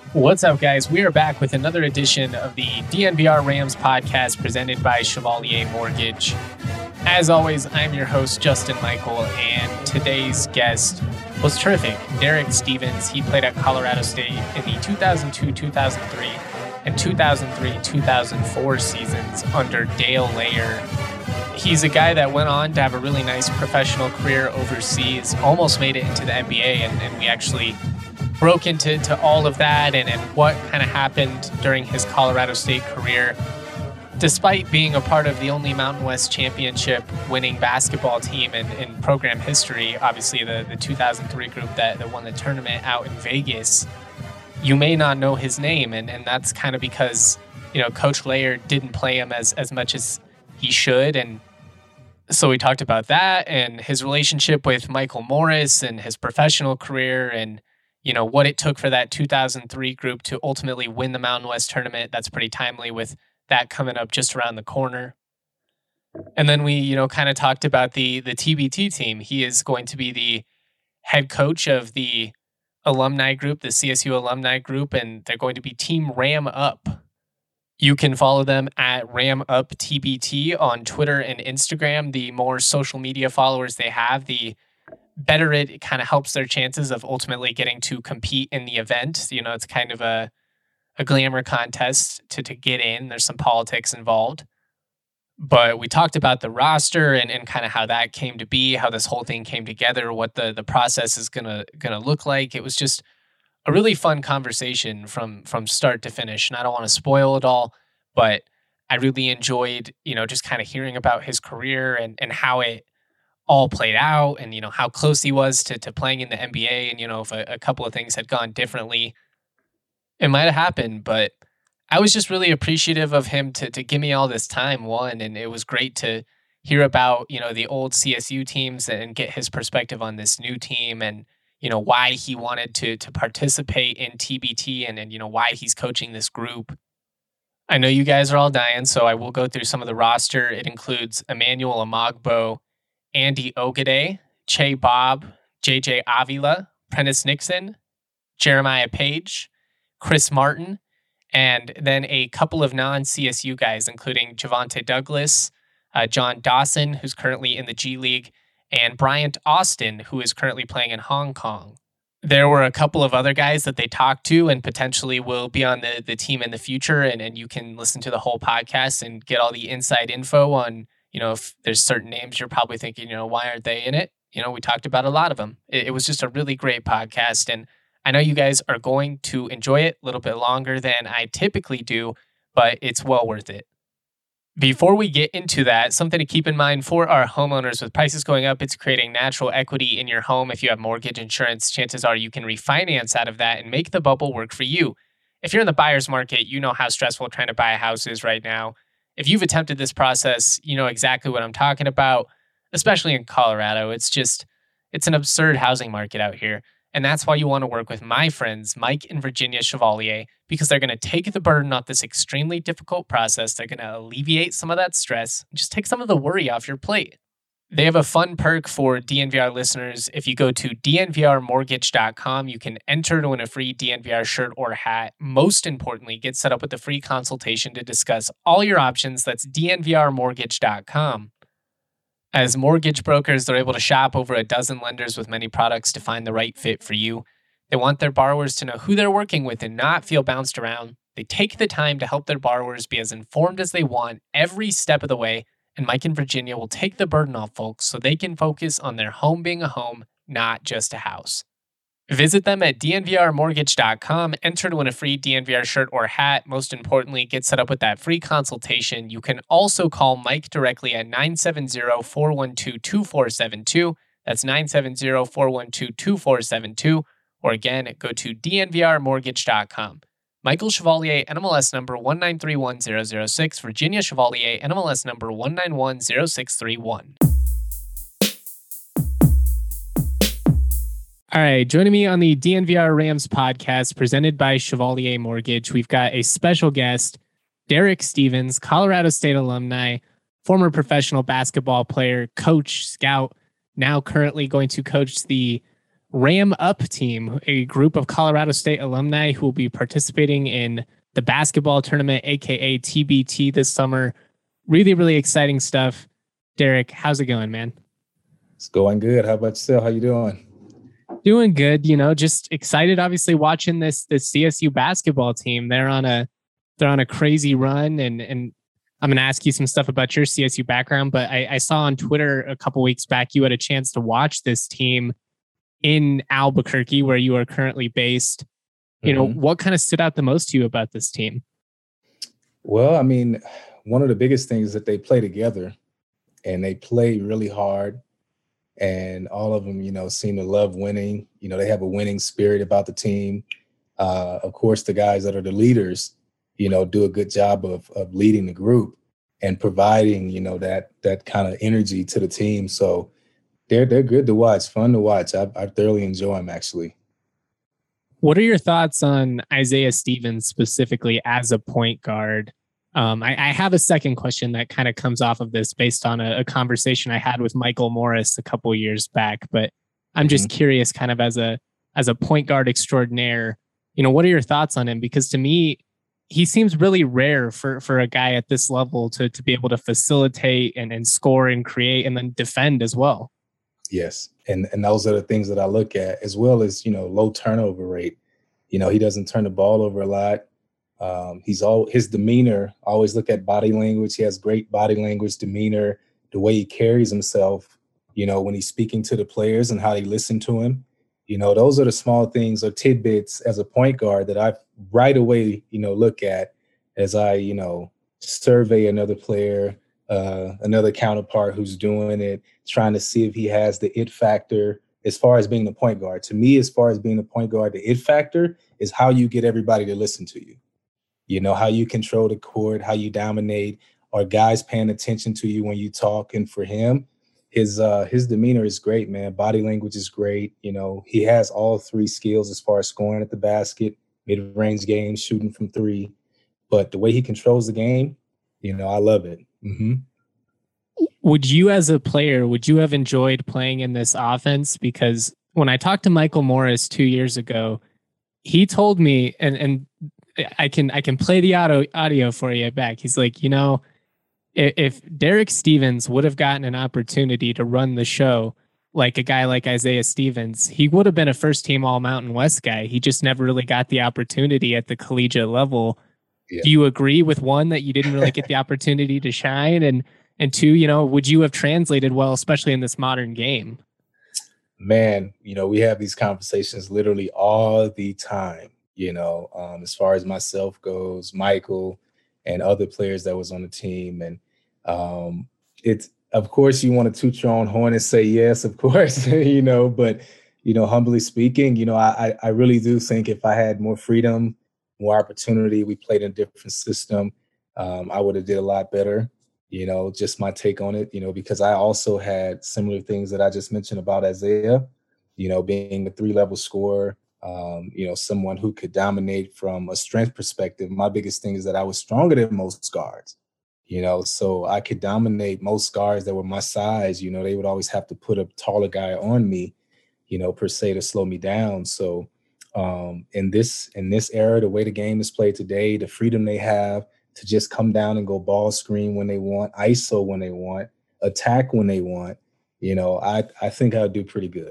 What's up, guys? We are back with another edition of the DNVR Rams podcast presented by Chevalier Mortgage. As always, I'm your host, Justin Michael, and today's guest was terrific. Derek Stevens. He played at Colorado State in the 2002-2003 and 2003-2004 seasons under Dale Layer. He's a guy that went on to have a really nice professional career overseas, almost made it into the NBA, and we actually broke into all of that and what kind of happened during his Colorado State career. Despite being a part of the only Mountain West Championship winning basketball team in program history, obviously the 2003 group that won the tournament out in Vegas, you may not know his name, and that's kind of because, Coach Layer didn't play him as much as he should. And so we talked about that and his relationship with Michael Morris and his professional career and what it took for that 2003 group to ultimately win the Mountain West tournament. That's pretty timely with that coming up just around the corner. And then we, kind of talked about the TBT team. He is going to be the head coach of the alumni group, the CSU alumni group, and they're going to be Team Ram Up. You can follow them at Ram Up TBT on Twitter and Instagram. The more social media followers they have, the better it kind of helps their chances of ultimately getting to compete in the event. It's kind of a glamour contest to get in. There's some politics involved. But we talked about the roster and kind of how that came to be, how this whole thing came together, what the process is gonna look like. It was just a really fun conversation from start to finish. And I don't want to spoil it all, but I really enjoyed, just kind of hearing about his career and how it all played out and, how close he was to playing in the NBA. And, if a couple of things had gone differently, it might have happened. But I was just really appreciative of him to give me all this time, one. And it was great to hear about, the old CSU teams and get his perspective on this new team and, why he wanted to participate in TBT and why he's coaching this group. I know you guys are all dying, so I will go through some of the roster. It includes Emmanuel Amagbo, Andy Ogade, Che Bob, JJ Avila, Prentice Nixon, Jeremiah Page, Chris Martin, and then a couple of non-CSU guys, including Javante Douglas, John Dawson, who's currently in the G League, and Bryant Austin, who is currently playing in Hong Kong. There were a couple of other guys that they talked to and potentially will be on the team in the future, and you can listen to the whole podcast and get all the inside info on if there's certain names you're probably thinking, why aren't they in it? We talked about a lot of them. It was just a really great podcast. And I know you guys are going to enjoy it a little bit longer than I typically do, but it's well worth it. Before we get into that, something to keep in mind for our homeowners: with prices going up, it's creating natural equity in your home. If you have mortgage insurance, chances are you can refinance out of that and make the bubble work for you. If you're in the buyer's market, you know how stressful trying to buy a house is right now. If you've attempted this process, you know exactly what I'm talking about, especially in Colorado. It's an absurd housing market out here. And that's why you want to work with my friends, Mike and Virginia Chevalier, because they're going to take the burden off this extremely difficult process. They're going to alleviate some of that stress, and just take some of the worry off your plate. They have a fun perk for DNVR listeners. If you go to dnvrmortgage.com, you can enter to win a free DNVR shirt or hat. Most importantly, get set up with a free consultation to discuss all your options. That's dnvrmortgage.com. As mortgage brokers, they're able to shop over a dozen lenders with many products to find the right fit for you. They want their borrowers to know who they're working with and not feel bounced around. They take the time to help their borrowers be as informed as they want every step of the way. And Mike and Virginia will take the burden off folks so they can focus on their home being a home, not just a house. Visit them at dnvrmortgage.com. Enter to win a free DNVR shirt or hat. Most importantly, get set up with that free consultation. You can also call Mike directly at 970-412-2472. That's 970-412-2472. Or again, go to dnvrmortgage.com. Michael Chevalier, NMLS number 1931006. Virginia Chevalier, NMLS number 1910631. All right, joining me on the DNVR Rams podcast presented by Chevalier Mortgage, we've got a special guest, Derek Stevens, Colorado State alumni, former professional basketball player, coach, scout, now currently going to coach the Ram Up team, a group of Colorado State alumni who will be participating in the basketball tournament, aka TBT, this summer. Really, really exciting stuff. Derek, how's it going, man? It's going good. How about yourself? How you doing? Doing good. Just excited. Obviously, watching this CSU basketball team. They're on a crazy run, and I'm gonna ask you some stuff about your CSU background. But I saw on Twitter a couple weeks back you had a chance to watch this team in Albuquerque, where you are currently based. What kind of stood out the most to you about this team? Well, I mean, one of the biggest things is that they play together and they play really hard. And all of them, seem to love winning. They have a winning spirit about the team. Of course, the guys that are the leaders, do a good job of leading the group and providing, that kind of energy to the team. So they're good to watch, fun to watch. I thoroughly enjoy them, actually. What are your thoughts on Isaiah Stevens specifically as a point guard? I have a second question that kind of comes off of this based on a conversation I had with Michael Morris a couple years back, but I'm just curious, kind of as a point guard extraordinaire, what are your thoughts on him? Because to me, he seems really rare for a guy at this level to be able to facilitate and score and create and then defend as well. Yes. And those are the things that I look at, as well as, low turnover rate. He doesn't turn the ball over a lot. His demeanor, always look at body language. He has great body language, demeanor, the way he carries himself, when he's speaking to the players and how they listen to him. Those are the small things or tidbits as a point guard that I right away, look at as I, survey another player, another counterpart who's doing it, trying to see if he has the it factor as far as being the point guard. To me, as far as being the point guard, the it factor is how you get everybody to listen to you. How you control the court, how you dominate, are guys paying attention to you when you talk? And for him, his demeanor is great, man. Body language is great. He has all three skills as far as scoring at the basket, mid-range game, shooting from three. But the way he controls the game, I love it. Mm-hmm. Would you, as a player, have enjoyed playing in this offense? Because when I talked to Michael Morris 2 years ago, he told me, and I can play the audio for you back. He's like, if Derek Stevens would have gotten an opportunity to run the show like a guy like Isaiah Stevens, he would have been a first team All Mountain West guy. He just never really got the opportunity at the collegiate level. Yeah. Do you agree with one, that you didn't really get the opportunity to shine? And two, would you have translated well, especially in this modern game? Man, we have these conversations literally all the time. As far as myself goes, Michael and other players that was on the team. And it's, of course, you want to toot your own horn and say, yes, of course, but, humbly speaking, I really do think if I had more freedom, more opportunity, we played in a different system, I would have did a lot better, just my take on it, because I also had similar things that I just mentioned about Isaiah, being a 3-level scorer, someone who could dominate from a strength perspective. My biggest thing is that I was stronger than most guards, so I could dominate most guards that were my size. They would always have to put a taller guy on me, per se, to slow me down. So in this era, the way the game is played today, the freedom they have to just come down and go ball screen when they want, ISO when they want, attack when they want, I think I'll do pretty good.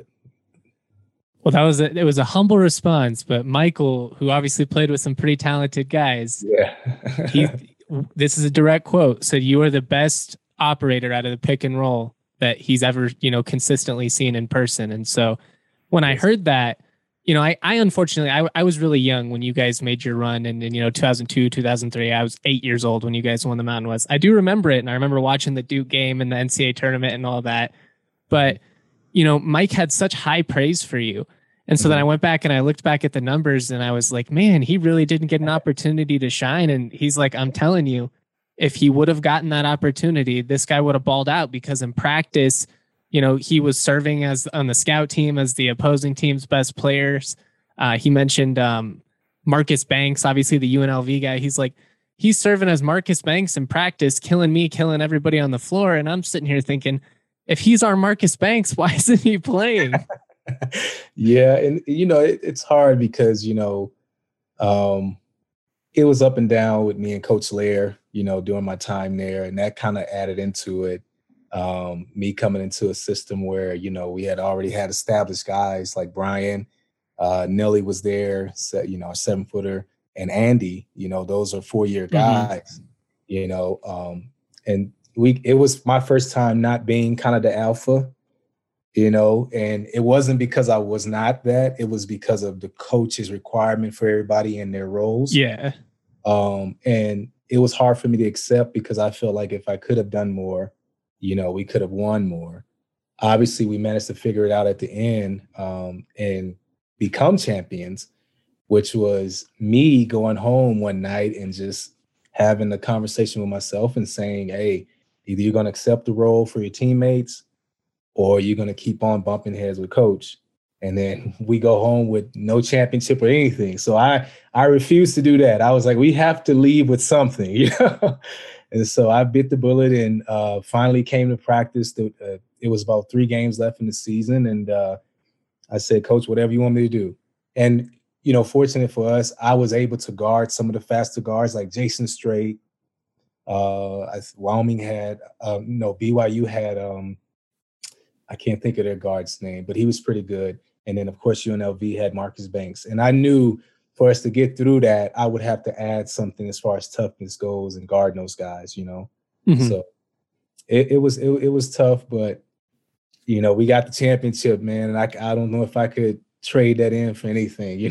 Well, it was a humble response, but Michael, who obviously played with some pretty talented guys, this is a direct quote, said you are the best operator out of the pick and roll that he's ever, consistently seen in person. And so when I heard that, I unfortunately, I was really young when you guys made your run, and 2002, 2003, I was 8 years old when you guys won the Mountain West. I do remember it, and I remember watching the Duke game and the NCAA tournament and all that. But, Mike had such high praise for you. And so then I went back and I looked back at the numbers and I was like, man, he really didn't get an opportunity to shine. And he's like, I'm telling you, if he would have gotten that opportunity, this guy would have balled out, because in practice, he was serving as on the scout team as the opposing team's best players. He mentioned Marcus Banks, obviously the UNLV guy. He's like, he's serving as Marcus Banks in practice, killing me, killing everybody on the floor. And I'm sitting here thinking, if he's our Marcus Banks, why isn't he playing? Yeah, and it's hard because um, it was up and down with me and Coach Lair, during my time there, and that kind of added into it. Me coming into a system where we had already had established guys like Brian, Nelly was there, so, a 7-footer, and Andy. Those are 4-year Mm-hmm. guys. And it was my first time not being kind of the alpha. And it wasn't because I was not that. It was because of the coach's requirement for everybody in their roles. Yeah. And it was hard for me to accept because I felt like if I could have done more, we could have won more. Obviously, we managed to figure it out at the end and become champions, which was me going home one night and just having a conversation with myself and saying, hey, either you're going to accept the role for your teammates or you're going to keep on bumping heads with coach. And then we go home with no championship or anything. So I refused to do that. I was like, we have to leave with something, And so I bit the bullet and finally came to practice. It was about 3 games left in the season. And I said, Coach, whatever you want me to do. And, fortunate for us, I was able to guard some of the faster guards like Jason Strait. Wyoming had, BYU had, I can't think of their guard's name, but he was pretty good. And then, of course, UNLV had Marcus Banks. And I knew for us to get through that, I would have to add something as far as toughness goes and guard those guys, Mm-hmm. So it was tough, but, we got the championship, man. And I don't know if I could trade that in for anything,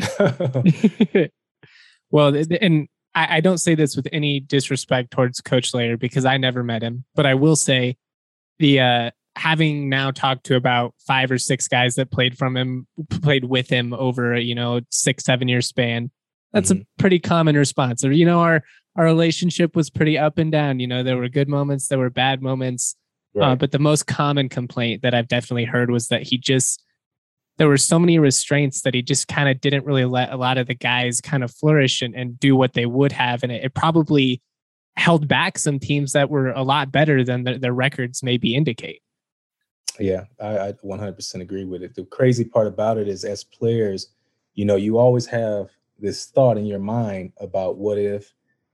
Well, and I don't say this with any disrespect towards Coach Lair because I never met him, but I will say the having now talked to about 5 or 6 guys that played with him over 6-7 year span, that's a pretty common response. Or our relationship was pretty up and down. There were good moments, there were bad moments, Right. But the most common complaint that I've definitely heard was that there were so many restraints that he just kind of didn't really let a lot of the guys kind of flourish and do what they would have. And it probably held back some teams that were a lot better than their records maybe indicate. Yeah, I 100% agree with it. The crazy part about it is as players, you always have this thought in your mind about what if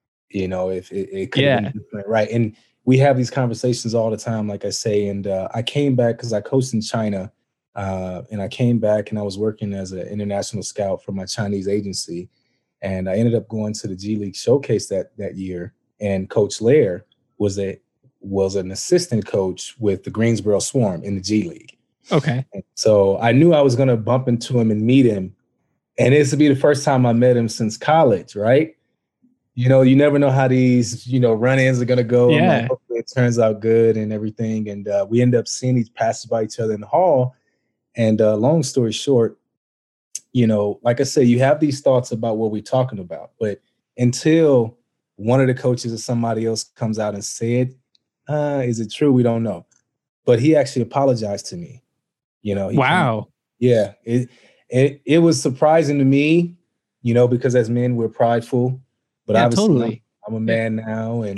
it could have been different, right? And we have these conversations all the time, like I say, and I came back because I coached in China. And I came back and I was working as an international scout for my Chinese agency. And I ended up going to the G League showcase that year. And Coach Lair was an assistant coach with the Greensboro Swarm in the G League. Okay. And so I knew I was going to bump into him and meet him. And this would be the first time I met him since college, right? You never know how these, run-ins are going to go. Yeah. Like, hopefully it turns out good and everything. And we end up seeing these passes by each other in the hall. And long story short, like I said, you have these thoughts about what we're talking about, but until one of the coaches or somebody else comes out and said, is it true? We don't know. But he actually apologized to me. Wow. Yeah. It was surprising to me, because as men, we're prideful, but obviously totally. I'm a man now. And,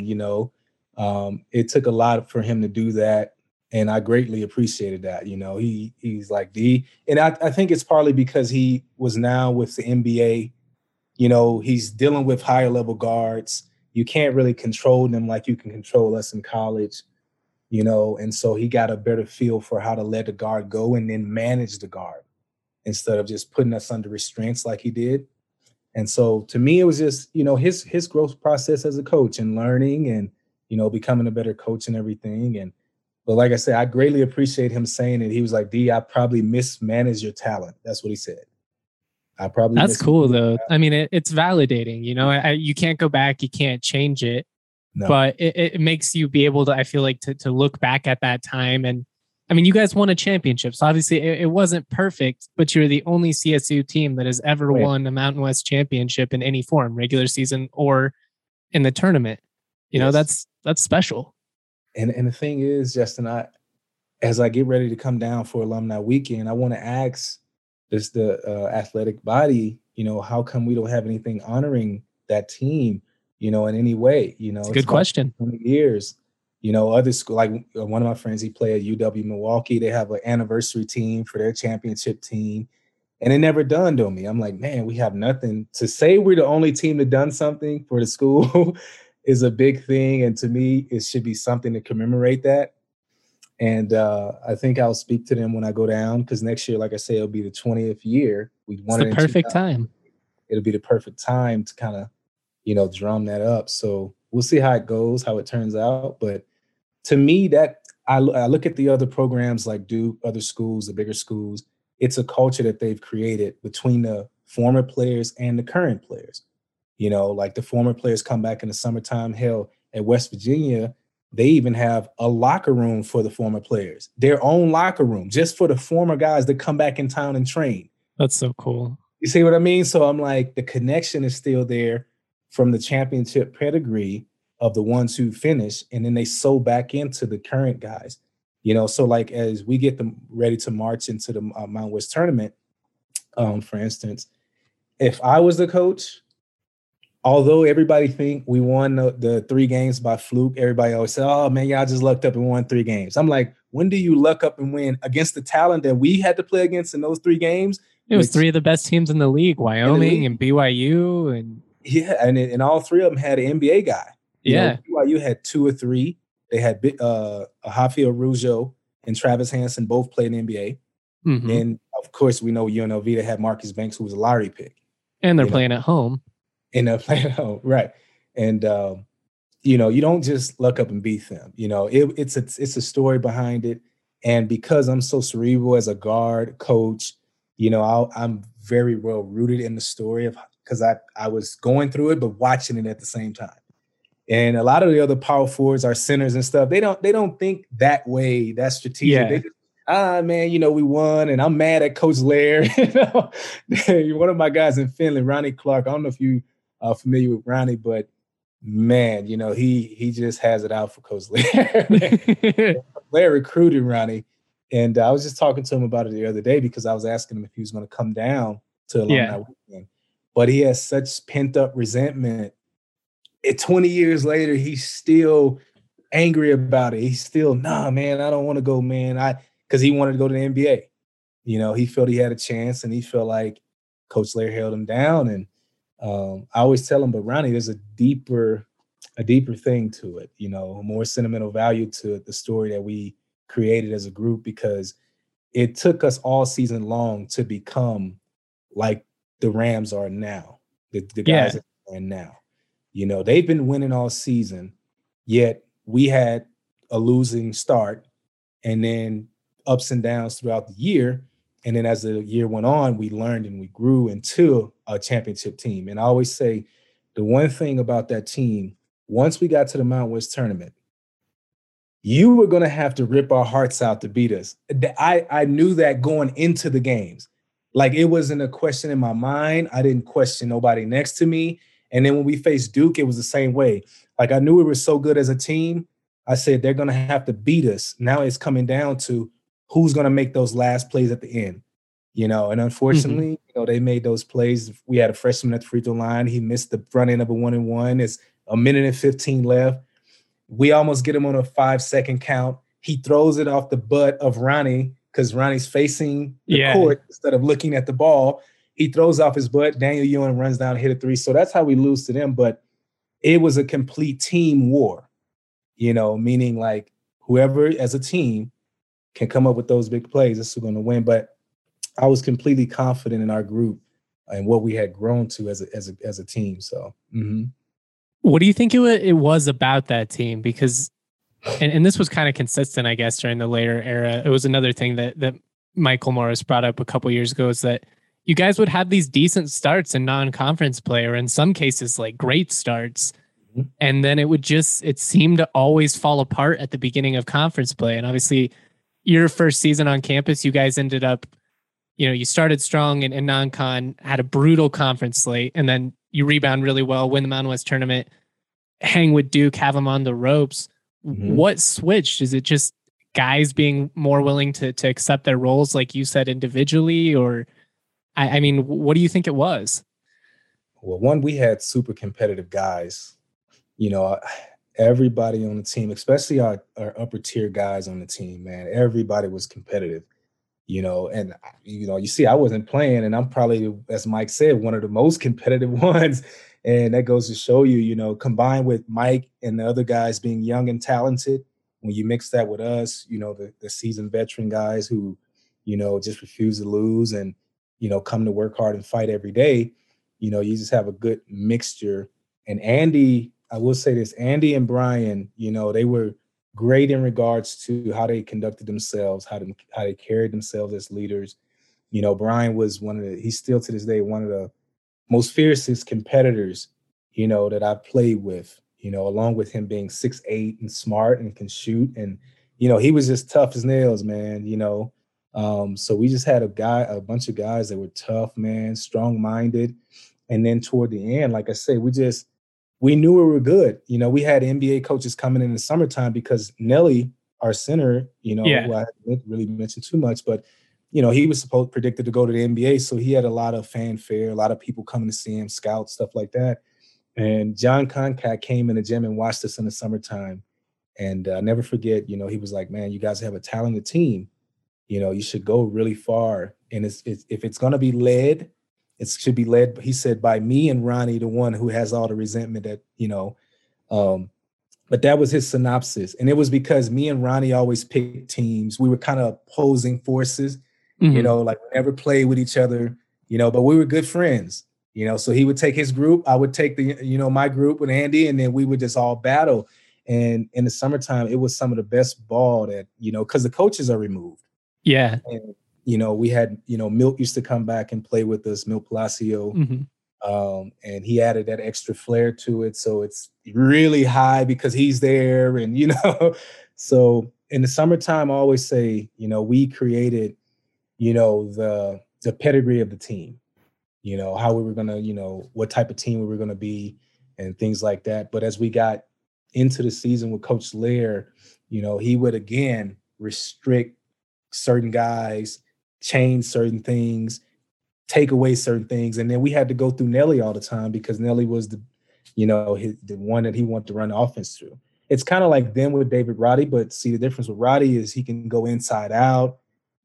it took a lot for him to do that. And I greatly appreciated that. He's like and I think it's partly because he was now with the NBA. He's dealing with higher level guards. You can't really control them like you can control us in college, and so he got a better feel for how to let the guard go and then manage the guard instead of just putting us under restraints like he did. And so to me, it was just, his growth process as a coach and learning and, becoming a better coach and everything. But like I said, I greatly appreciate him saying it. He was like, D, I probably mismanaged your talent. That's what he said. That's cool, though. I mean, it's validating. You can't go back. You can't change it. No. But it makes you be able to, I feel like, to look back at that time. And I mean, you guys won a championship. So obviously it wasn't perfect, but you're the only CSU team that has ever won a Mountain West championship in any form, regular season or in the tournament. That's special. And the thing is, Justin, as I get ready to come down for Alumni Weekend, I want to ask the athletic body, how come we don't have anything honoring that team, in any way? It's a good question. 20 years. Other school, like one of my friends, he played at UW Milwaukee. They have an anniversary team for their championship team. And it never dawned on me. I'm like, man, we have nothing to say. We're the only team that done something for the school is a big thing. And to me, it should be something to commemorate that. And I think I'll speak to them when I go down, because next year, like I said, it'll be the 20th year. We won it. It's the perfect time. It'll be the perfect time to kind of, drum that up. So we'll see how it goes, how it turns out. But to me, that I look at the other programs like Duke, other schools, the bigger schools. It's a culture that they've created between the former players and the current players. Like the former players come back in the summertime. Hell, at West Virginia, they even have a locker room for the former players, their own locker room, just for the former guys that come back in town and train. That's so cool. You see what I mean? So I'm like, the connection is still there from the championship pedigree of the ones who finish, and then they sew back into the current guys. So like as we get them ready to march into the Mount West tournament, for instance, if I was the coach, although everybody think we won the 3 games by fluke, everybody always say, oh man, y'all just lucked up and won 3 games. I'm like, when do you luck up and win against the talent that we had to play against in those 3 games? It was 3 of the best teams in the league, Wyoming and BYU. And yeah, and all 3 of them had an NBA guy. BYU had 2 or 3. They had Rafael Rougeau and Travis Hansen both played in the NBA. Mm-hmm. And, of course, we know UNLV, they had Marcus Banks, who was a lottery pick. And they're playing at home. And they're playing at home, right. And, you don't just luck up and beat them. It's a story behind it. And because I'm so cerebral as a guard, coach, I'm very well rooted in the story because I was going through it, but watching it at the same time. And a lot of the other power forwards, our centers and stuff, they don't think that way. That's strategic. Yeah. They just, man, we won, and I'm mad at Coach Lair. One of my guys in Finland, Ronnie Clark. I don't know if you are familiar with Ronnie, but man, he just has it out for Coach Lair. Lair recruited Ronnie, and I was just talking to him about it the other day because I was asking him if he was going to come down to Alumni Weekend. But he has such pent up resentment. 20 years later, he's still angry about it. He's still, nah, man, I don't want to go, man. Because he wanted to go to the NBA. He felt he had a chance, and he felt like Coach Lair held him down. And I always tell him, but Ronnie, there's a deeper thing to it, more sentimental value to the story that we created as a group, because it took us all season long to become like the Rams are now, the guys that are now. They've been winning all season, yet we had a losing start and then ups and downs throughout the year. And then as the year went on, we learned and we grew into a championship team. And I always say the one thing about that team, once we got to the Mount West tournament, you were going to have to rip our hearts out to beat us. I knew that going into the games. Like, it wasn't a question in my mind. I didn't question nobody next to me. And then when we faced Duke, it was the same way. Like, I knew we were so good as a team. I said, they're going to have to beat us. Now it's coming down to who's going to make those last plays at the end. And unfortunately, they made those plays. We had a freshman at the free throw line. He missed the front end of a 1-and-1. It's a minute and 15 left. We almost get him on a 5-second count. He throws it off the butt of Ronnie because Ronnie's facing the court instead of looking at the ball. He throws off his butt. Daniel Ewing runs down and hit a 3. So that's how we lose to them. But it was a complete team war, meaning like whoever as a team can come up with those big plays, this is going to win. But I was completely confident in our group and what we had grown to as a team. So, What do you think it was about that team? Because, and this was kind of consistent, I guess, during the later era. It was another thing that Michael Morris brought up a couple years ago, is that you guys would have these decent starts in non-conference play, or in some cases, like great starts. Mm-hmm. And then it seemed to always fall apart at the beginning of conference play. And obviously your first season on campus, you guys ended up, you started strong in non-con, had a brutal conference slate, and then you rebound really well, win the Mountain West tournament, hang with Duke, have them on the ropes. Mm-hmm. What switched? Is it just guys being more willing to accept their roles, like you said, individually? Or, I mean, what do you think it was? Well, one, we had super competitive guys. Everybody on the team, especially our upper tier guys on the team, man, everybody was competitive, and, you see, I wasn't playing, and I'm probably, as Mike said, one of the most competitive ones. And that goes to show you, combined with Mike and the other guys being young and talented, when you mix that with us, the seasoned veteran guys who, just refuse to lose and, come to work hard and fight every day, you just have a good mixture. And Andy, I will say this, Andy and Brian, they were great in regards to how they conducted themselves, how they carried themselves as leaders. Brian was he's still to this day one of the most fiercest competitors, that I've played with, along with him being 6'8" and smart and can shoot. And, he was just tough as nails, man, so we just had a bunch of guys that were tough, man, strong-minded. And then toward the end, like I said, we knew we were good. We had NBA coaches coming in the summertime because Nelly, our center, who I haven't really mentioned too much, but, he was predicted to go to the NBA. So he had a lot of fanfare, a lot of people coming to see him, scouts, stuff like that. And John Concat came in the gym and watched us in the summertime. And I'll never forget, he was like, man, you guys have a talented team. You should go really far. And if it's going to be led, it should be led, he said, by me and Ronnie, the one who has all the resentment that, but that was his synopsis. And it was because me and Ronnie always picked teams. We were kind of opposing forces, like we never played with each other, but we were good friends, so he would take his group. I would take my group with Andy, and then we would just all battle. And in the summertime, it was some of the best ball that, because the coaches are removed. Yeah. And, we had, Milt used to come back and play with us, Milt Palacio. And he added that extra flair to it. So it's really high because he's there. And, so in the summertime, I always say, we created, the pedigree of the team, how we were going to, what type of team we were going to be and things like that. But as we got into the season with Coach Lair, he would again restrict certain guys, change certain things, take away certain things. And then we had to go through Nelly all the time because Nelly was the one that he wanted to run the offense through. It's kind of like them with David Roddy, but see, the difference with Roddy is he can go inside out,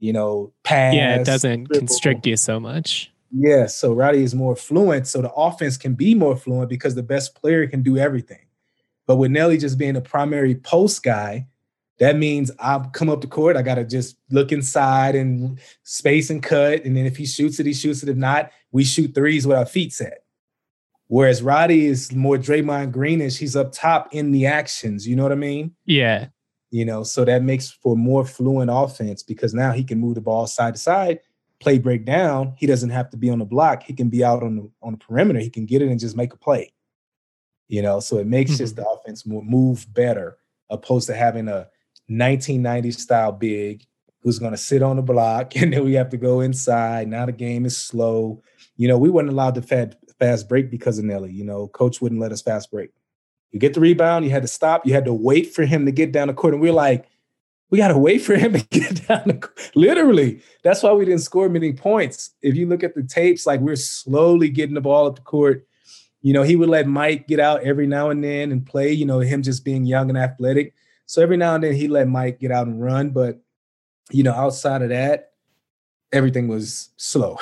pass. Yeah, it doesn't dribble. constrict you so much. Yeah, so Roddy is more fluent, so the offense can be more fluent because the best player can do everything. But with Nelly just being a primary post guy, that means I'll come up the court. I got to just look inside and space and cut. And then if he shoots it, he shoots it. If not, we shoot threes with our feet set. Whereas Roddy is more Draymond Greenish. He's up top in the actions. You know what I mean? Yeah. So that makes for more fluent offense because now he can move the ball side to side, play break down. He doesn't have to be on the block. He can be out on the perimeter. He can get it and just make a play. So it makes just the offense move better opposed to having a 1990s style big who's going to sit on the block and then we have to go inside. Now the game is slow. We weren't allowed to fast break because of Nelly. Coach wouldn't let us fast break. You get the rebound, you had to stop. You had to wait for him to get down the court. And we're like, we got to wait for him to get down the court. Literally. That's why we didn't score many points. If you look at the tapes, like we're slowly getting the ball up the court. He would let Mike get out every now and then and play, him just being young and athletic. So every now and then he let Mike get out and run. But, outside of that, everything was slow.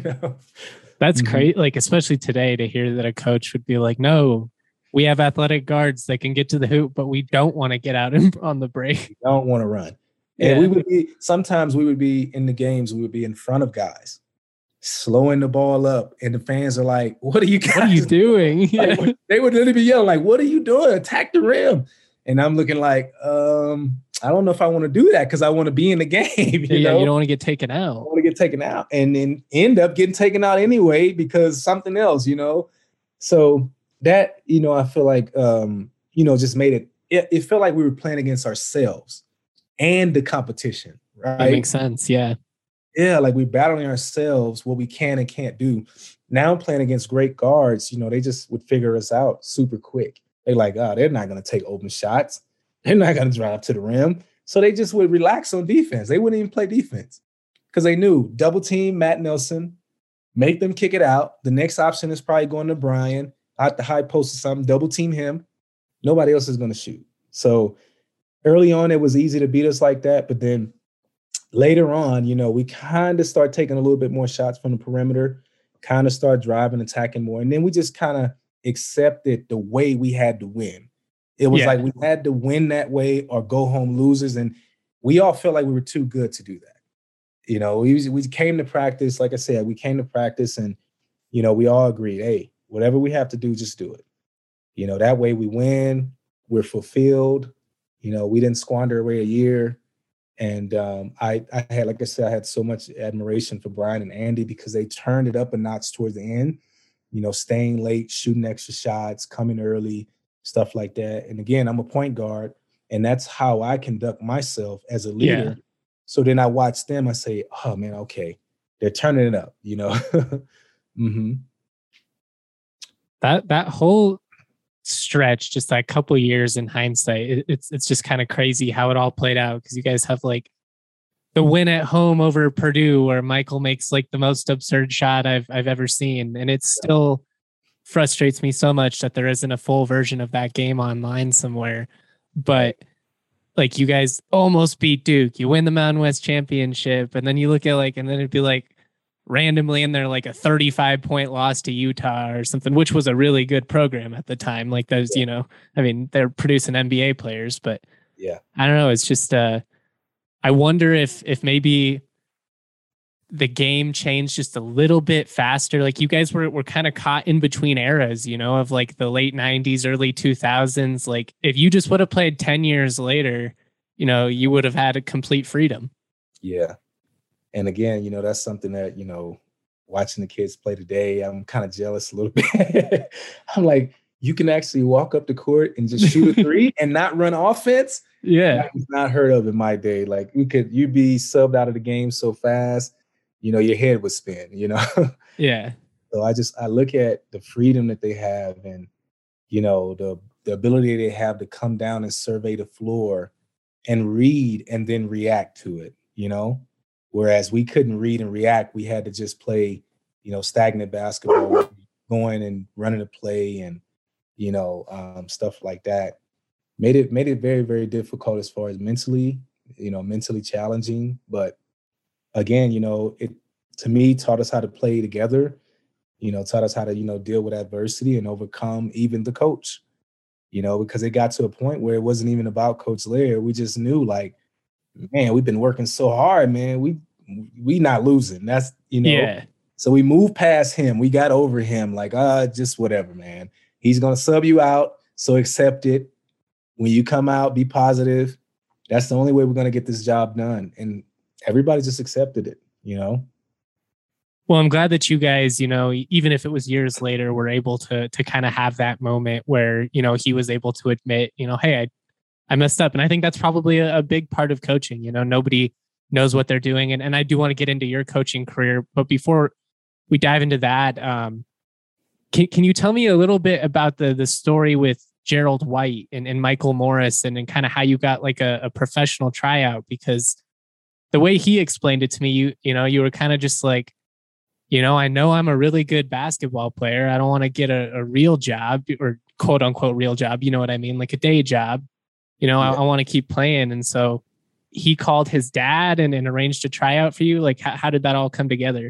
That's great. Like, especially today to hear that a coach would be like, no, we have athletic guards that can get to the hoop, but we don't want to get out on the break. We don't want to run. And sometimes we would be in the games, we would be in front of guys, slowing the ball up. And the fans are like, what are you guys What are you doing? Like, they would literally be yelling, like, what are you doing? Attack the rim. And I'm looking like, I don't know if I want to do that because I want to be in the game. You know? You don't want to get taken out. I want to get taken out and then end up getting taken out anyway because something else, So that, I feel like, just made it felt like we were playing against ourselves and the competition, right? That makes sense, yeah. Yeah, like we're battling ourselves, what we can and can't do. Now I'm playing against great guards, they just would figure us out super quick. They're like, they're not going to take open shots. They're not going to drive to the rim. So they just would relax on defense. They wouldn't even play defense because they knew double team Matt Nelson, make them kick it out. The next option is probably going to Brian out the high post or something, double team him, Nobody else is going to shoot. So early on, it was easy to beat us like that. But then later on, we kind of start taking a little bit more shots from the perimeter, kind of start driving, attacking more. And then we just kind of accepted the way we had to win. It was like we had to win that way or go home losers. And we all felt like we were too good to do that. We came to practice. Like I said, we came to practice and, we all agreed, hey, whatever we have to do, just do it. That way we win, we're fulfilled. We didn't squander away a year. And I had, like I said, I had so much admiration for Brian and Andy because they turned it up a notch towards the end, staying late, shooting extra shots, coming early, stuff like that. And again, I'm a point guard, and that's how I conduct myself as a leader. Yeah. So then I watch them, I say, oh man, okay, they're turning it up, mm-hmm. That whole stretch, just that couple years in hindsight, it's just kind of crazy how it all played out, because you guys have like the win at home over Purdue where Michael makes like the most absurd shot I've ever seen, and it still frustrates me so much that there isn't a full version of that game online somewhere. But like, you guys almost beat Duke, you win the Mountain West Championship, and then you look at and then it'd be like randomly in there like a 35-point loss to Utah or something, which was a really good program at the time. Like those, they're producing NBA players, but I don't know. It's just, I wonder if maybe the game changed just a little bit faster. Like you guys were kind of caught in between eras, of like the late 90s, early 2000s. Like if you just would have played 10 years later, you would have had a complete freedom. Yeah. And again, that's something that, watching the kids play today, I'm kind of jealous a little bit. I'm like, you can actually walk up the court and just shoot a three and not run offense. Yeah. That was not heard of in my day. Like you'd be subbed out of the game so fast, your head would spin, Yeah. So I look at the freedom that they have and, the ability they have to come down and survey the floor and read and then react to it, Whereas we couldn't read and react. We had to just play, stagnant basketball, going and running a play and, stuff like that. Made it very, very difficult as far as mentally challenging. But again, it to me taught us how to play together, taught us how to, deal with adversity and overcome even the coach, because it got to a point where it wasn't even about Coach Lair. We just knew like, man, we've been working so hard, man. We not losing. That's, Yeah. So we moved past him. We got over him. Like, just whatever, man. He's going to sub you out. So accept it. When you come out, be positive. That's the only way we're going to get this job done. And everybody just accepted it, Well, I'm glad that you guys, even if it was years later, were able to kind of have that moment where, he was able to admit, hey, I messed up. And I think that's probably a big part of coaching. Nobody knows what they're doing. And I do want to get into your coaching career. But before we dive into that, can you tell me a little bit about the story with Gerald White and Michael Morris and kind of how you got like a professional tryout? Because the way he explained it to me, you were kind of just like, I know I'm a really good basketball player. I don't want to get a real job or quote unquote real job. You know what I mean? Like a day job. I want to keep playing. And so he called his dad and arranged a tryout for you. Like, how did that all come together?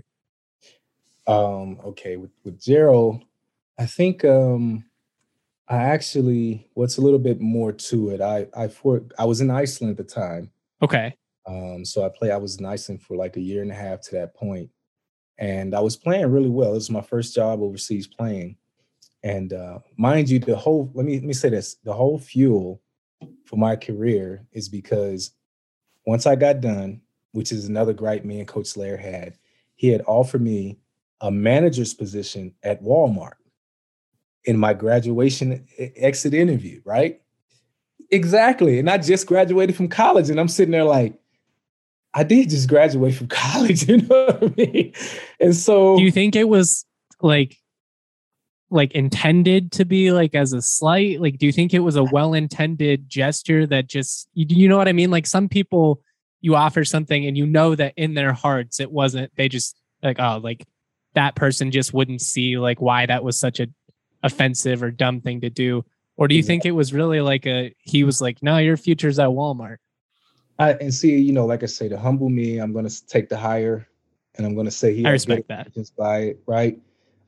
Okay. With Gerald, I think I actually, what's a little bit more to it. I was in Iceland at the time. Okay. So I was in Iceland for like a year and a half to that point. And I was playing really well. It was my first job overseas playing. And mind you, let me say this, the whole fuel for my career is because once I got done, which is another gripe me and Coach Lair had, he had offered me a manager's position at Walmart in my graduation exit interview, right? Exactly. And I just graduated from college and I'm sitting there like, I did just graduate from college, you know what I mean? And so do you think it was like intended to be like as a slight? Like, do you think it was a well-intended gesture that just, you know what I mean? Like some people, you offer something and that in their hearts, it wasn't, they just like, oh, like that person just wouldn't see like why that was such a offensive or dumb thing to do. Or do you think it was really like he was like, no, your future's at Walmart? And see, you know, like I say, to humble me, I'm going to take the higher, and I'm going to say he had good intentions by it, right?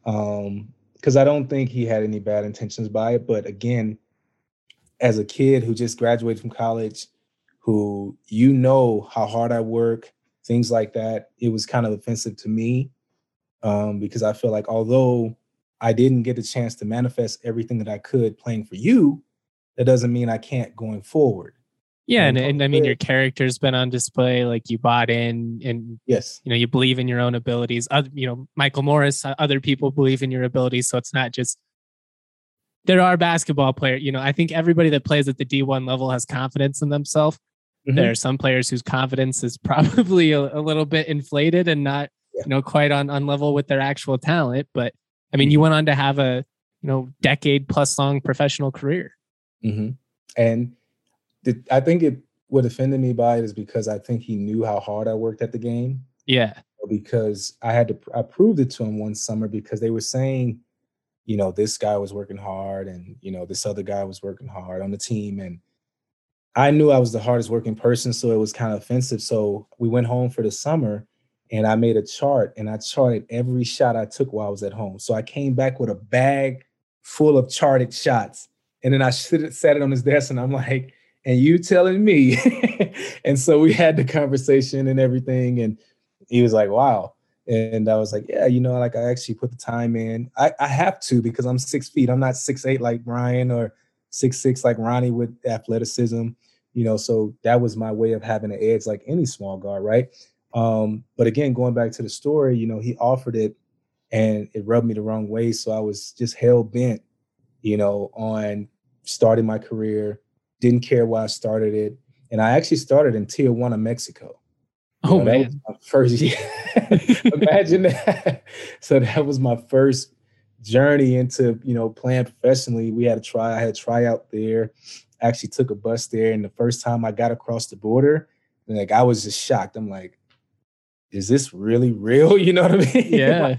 Because I don't think he had any bad intentions by it. But again, as a kid who just graduated from college, who, you know, how hard I work, things like that, it was kind of offensive to me, because I feel like although I didn't get the chance to manifest everything that I could playing for you, that doesn't mean I can't going forward. Yeah, and I mean, your character's been on display. Like, you bought in, and yes, you know, you believe in your own abilities. You know, Michael Morris, other people believe in your abilities, so it's not just. There are basketball players. You know, I think everybody that plays at the D1 level has confidence in themselves. Mm-hmm. There are some players whose confidence is probably a little bit inflated and not, you know, quite on level with their actual talent. But I mean, you went on to have a, you know, decade plus long professional career. Mm-hmm. And I think what offended me by it is because I think he knew how hard I worked at the game. Yeah. Because I proved it to him one summer, because they were saying, you know, this guy was working hard, and, you know, this other guy was working hard on the team. And I knew I was the hardest working person, so it was kind of offensive. So we went home for the summer, and I made a chart, and I charted every shot I took while I was at home. So I came back with a bag full of charted shots. And then I sat it on his desk, and I'm like, and you telling me? And so we had the conversation and everything. And he was like, wow. And I was like, yeah, you know, like, I actually put the time in. I have to, because I'm 6 feet. I'm not 6'8" like Brian, or 6'6" like Ronnie with athleticism, you know, so that was my way of having an edge like any small guard, right? But again, going back to the story, you know, he offered it, and it rubbed me the wrong way. So I was just hell bent, you know, on starting my career. Didn't care why I started it. And I actually started in Tijuana, Mexico. Man. That was my first year. Imagine that. So that was my first journey into, you know, playing professionally. I had a tryout there. I actually took a bus there. And the first time I got across the border, like, I was just shocked. I'm like, is this really real? You know what I mean? Yeah.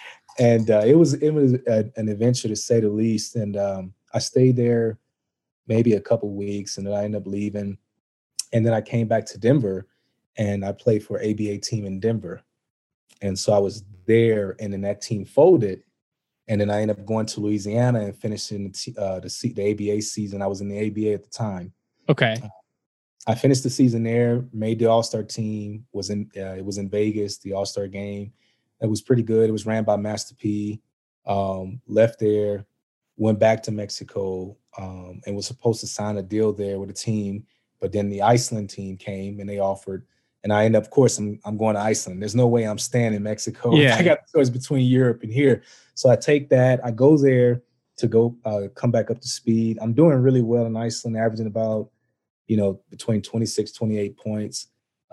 And it was an adventure, to say the least. And I stayed there maybe a couple weeks, and then I ended up leaving. And then I came back to Denver, and I played for an ABA team in Denver. And so I was there, and then that team folded. And then I ended up going to Louisiana and finishing the ABA season. I was in the ABA at the time. Okay. I finished the season there, made the All-Star team. It was in Vegas, the All-Star game. It was pretty good. It was ran by Master P. Left there, went back to Mexico, and was supposed to sign a deal there with a team. But then the Iceland team came, and they offered. And I end up, of course, I'm going to Iceland. There's no way I'm staying in Mexico. Yeah. I got the choice between Europe and here. So I take that. I go there to come back up to speed. I'm doing really well in Iceland, averaging about, you know, between 26, 28 points.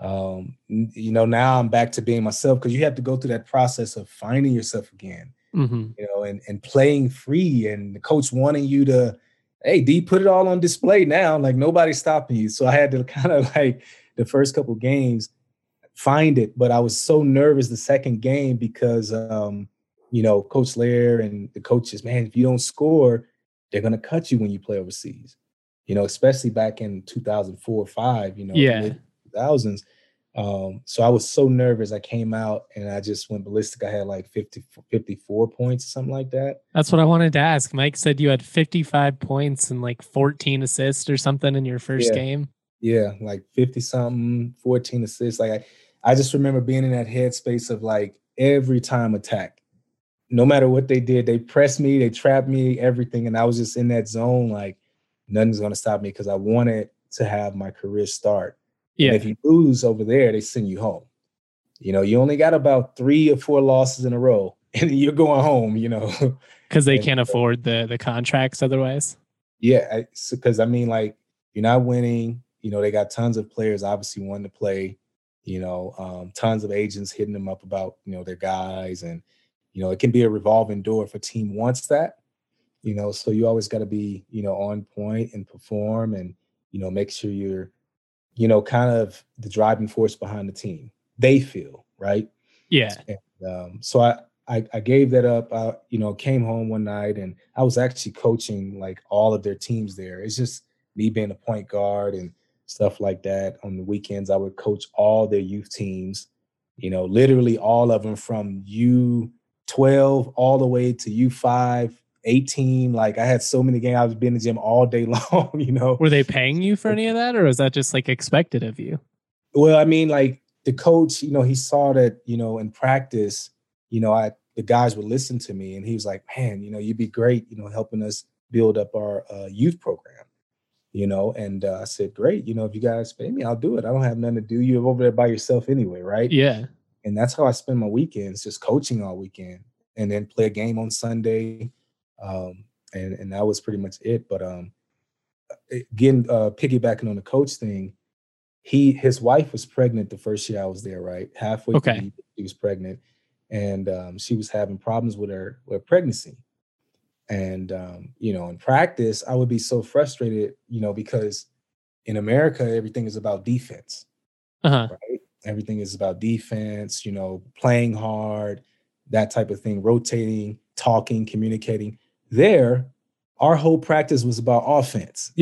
You know, now I'm back to being myself, because you have to go through that process of finding yourself again, you know, and playing free, and the coach wanting you to, hey, D, put it all on display now. Like, nobody's stopping you. So I had to kind of, like, the first couple games, find it. But I was so nervous the second game because, you know, Coach Lair and the coaches, man, if you don't score, they're going to cut you when you play overseas, you know, especially back in 2004 or 5, you know, mid 2000s. So I was so nervous. I came out and I just went ballistic. I had like 54 points or something like that. That's what I wanted to ask. Mike said you had 55 points and like 14 assists or something in your first game. Yeah, like 50 something, 14 assists. Like, I just remember being in that headspace of, like, every time attack, no matter what they did, they pressed me, they trapped me, everything. And I was just in that zone, like, nothing's going to stop me, because I wanted to have my career start. Yeah. And if you lose over there, they send you home. You know, you only got about 3 or 4 losses in a row, and you're going home, you know. Because they can't afford the contracts otherwise. Yeah, because, I mean, like, you're not winning. You know, they got tons of players obviously wanting to play, you know, tons of agents hitting them up about, you know, their guys. And, you know, it can be a revolving door if a team wants that, you know, so you always got to be, you know, on point and perform, and, you know, make sure you're, you know, kind of the driving force behind the team. They feel, right? Yeah. And, so I gave that up. Came home one night and I was actually coaching like all of their teams there. It's just me being a point guard and stuff like that. On the weekends, I would coach all their youth teams, literally all of them from U12 all the way to U5, 18. Like I had so many games. I was in the gym all day long. Were they paying you for any of that, or was that just like expected of you? Well, I mean, like the coach, he saw that, in practice, the guys would listen to me and he was like, man, you'd be great, helping us build up our youth program, and I said, great. If you guys pay me, I'll do it. I don't have nothing to do. You're over there by yourself anyway. Right. Yeah. And that's how I spend my weekends, just coaching all weekend and then play a game on Sunday. And that was pretty much it. But again, piggybacking on the coach thing, his wife was pregnant the first year I was there, right? Halfway through the year, she was pregnant. And she was having problems with her pregnancy. And, in practice, I would be so frustrated, because in America, everything is about defense, right? Everything is about defense, playing hard, that type of thing, rotating, talking, communicating. There, our whole practice was about offense.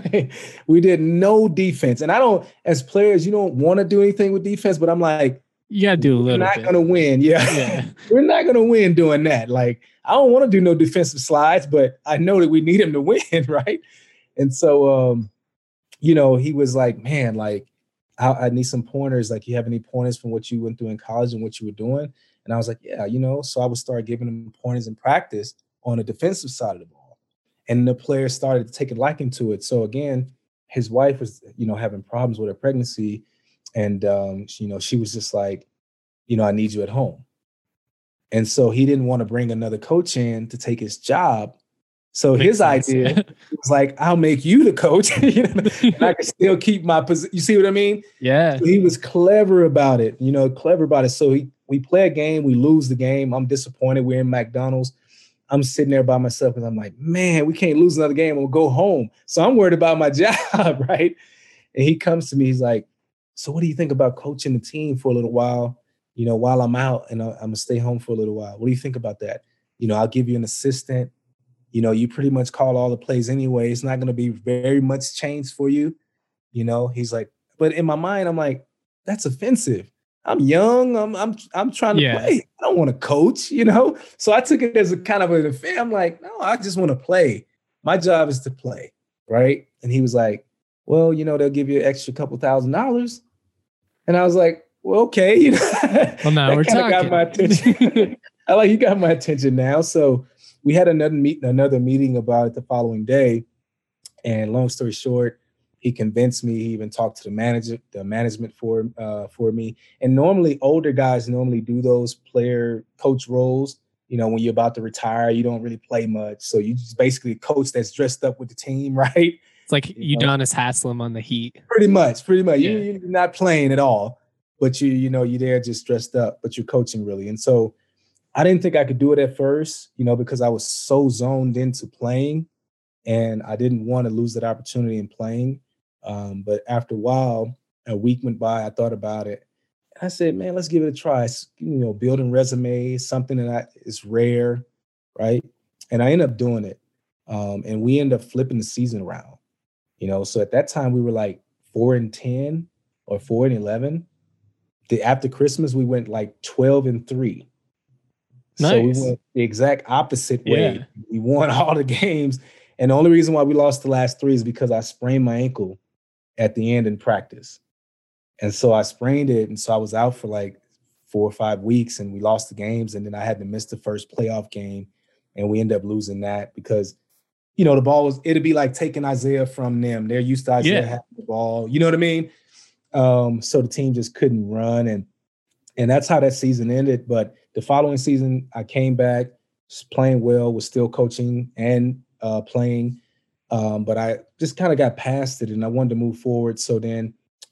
We did no defense. And as players, you don't want to do anything with defense, but I'm like, you gotta do a little bit. We're not going to win. Yeah. We're not going to win doing that. Like, I don't want to do no defensive slides, but I know that we need him to win, right? And so, he was like, man, like, I need some pointers. Like, you have any pointers from what you went through in college and what you were doing? And I was like, yeah, so I would start giving him pointers in practice on the defensive side of the ball. And the players started to take a liking to it. So again, his wife was, having problems with her pregnancy. And, she was just like, I need you at home. And so he didn't want to bring another coach in to take his job. So his idea was like, I'll make you the coach, and I can still keep my position. You see what I mean? Yeah. So he was clever about it, So we play a game, we lose the game. I'm disappointed. We're in McDonald's. I'm sitting there by myself because I'm like, man, we can't lose another game. We'll go home. So I'm worried about my job, right? And he comes to me, he's like, so what do you think about coaching the team for a little while, while I'm out and I'm going to stay home for a little while? What do you think about that? I'll give you an assistant. You pretty much call all the plays anyway. It's not going to be very much change for you. He's like, but in my mind, I'm like, that's offensive. I'm young. I'm trying to play. I don't want to coach, So I took it as a kind of an affair. I'm like, no, I just want to play. My job is to play, right? And he was like, well, they'll give you an extra couple $1,000. And I was like, well, okay. Well, now we're talking. Got my attention. I like, you got my attention now. So we had another meeting about it the following day. And long story short, he convinced me. He even talked to the management for me. And normally older guys do those player coach roles. When you're about to retire, you don't really play much. So you just basically coach that's dressed up with the team, right? It's like Udonis Haslem on the Heat. Pretty much. Yeah. You're not playing at all, but you're there just dressed up, but you're coaching really. And so I didn't think I could do it at first, because I was so zoned into playing and I didn't want to lose that opportunity in playing. But after a while, a week went by, I thought about it. And I said, man, let's give it a try. Building resumes, something that is rare, right? And I ended up doing it. And we ended up flipping the season around. So at that time we were like 4-10 or 4-11. After Christmas, we went like 12-3. Nice. So we went the exact opposite way. Yeah. We won all the games. And the only reason why we lost the last 3 is because I sprained my ankle at the end in practice. And so I sprained it. And so I was out for like 4 or 5 weeks and we lost the games. And then I had to miss the first playoff game. And we ended up losing that because the ball it'd be like taking Isaiah from them. They're used to Isaiah having the ball. You know what I mean? So the team just couldn't run. And that's how that season ended. But the following season, I came back, playing well, was still coaching and playing. But I just kind of got past it and I wanted to move forward. So then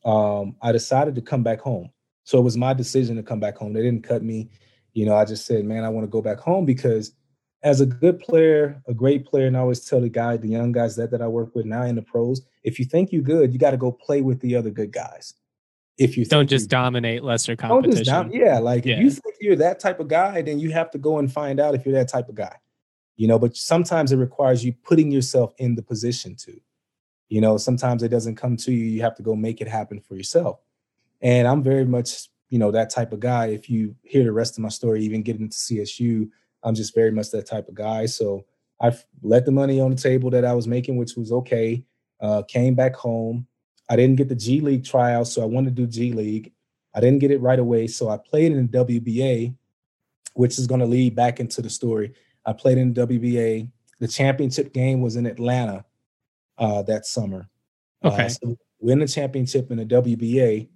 I decided to come back home. So it was my decision to come back home. They didn't cut me. I just said, man, I want to go back home because as a good player, a great player, and I always tell the young guys that I work with now in the pros, if you think you're good, you got to go play with the other good guys. if you don't just dominate lesser don't just competition. like if you think you're that type of guy, then you have to go and find out if you're that type of guy. But sometimes it requires you putting yourself in the position to. Sometimes it doesn't come to you. You have to go make it happen for yourself. And I'm very much, that type of guy. If you hear the rest of my story, even getting into CSU, I'm just very much that type of guy. So I've let the money on the table that I was making, which was okay. Came back home. I didn't get the G League tryout, so I wanted to do G League. I didn't get it right away, so I played in the WBA, which is going to lead back into the story. I played in the WBA. The championship game was in Atlanta that summer. Okay. So win the championship in the WBA.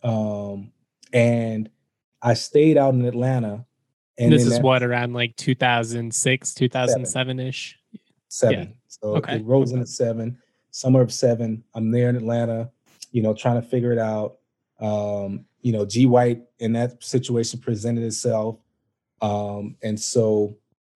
And I stayed out in Atlanta. And this is what, around like 2006, 2007-ish? 7. Yeah. So it rolls into 7, summer of 7. I'm there in Atlanta, trying to figure it out. G White in that situation presented itself. And so,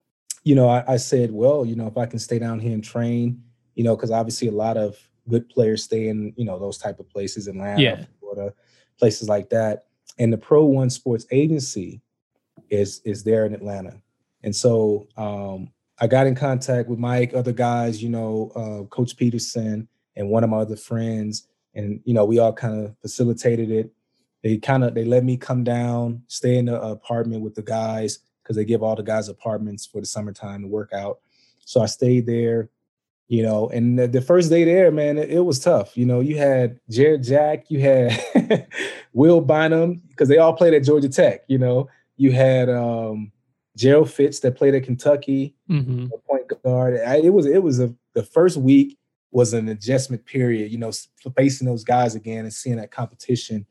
I said, well, if I can stay down here and train, because obviously a lot of good players stay in, those type of places, Atlanta, Florida, places like that. And the Pro One Sports Agency is there in Atlanta. And so I got in contact with Mike, other guys, Coach Peterson and one of my other friends. And, we all kind of facilitated it. They let me come down, stay in the apartment with the guys, because they give all the guys apartments for the summertime to work out. So I stayed there, and the first day there, man, it was tough. You had Jared Jack, you had Will Bynum, because they all played at Georgia Tech. You had Gerald Fitz that played at Kentucky, point guard. The first week was an adjustment period, facing those guys again and seeing that competition,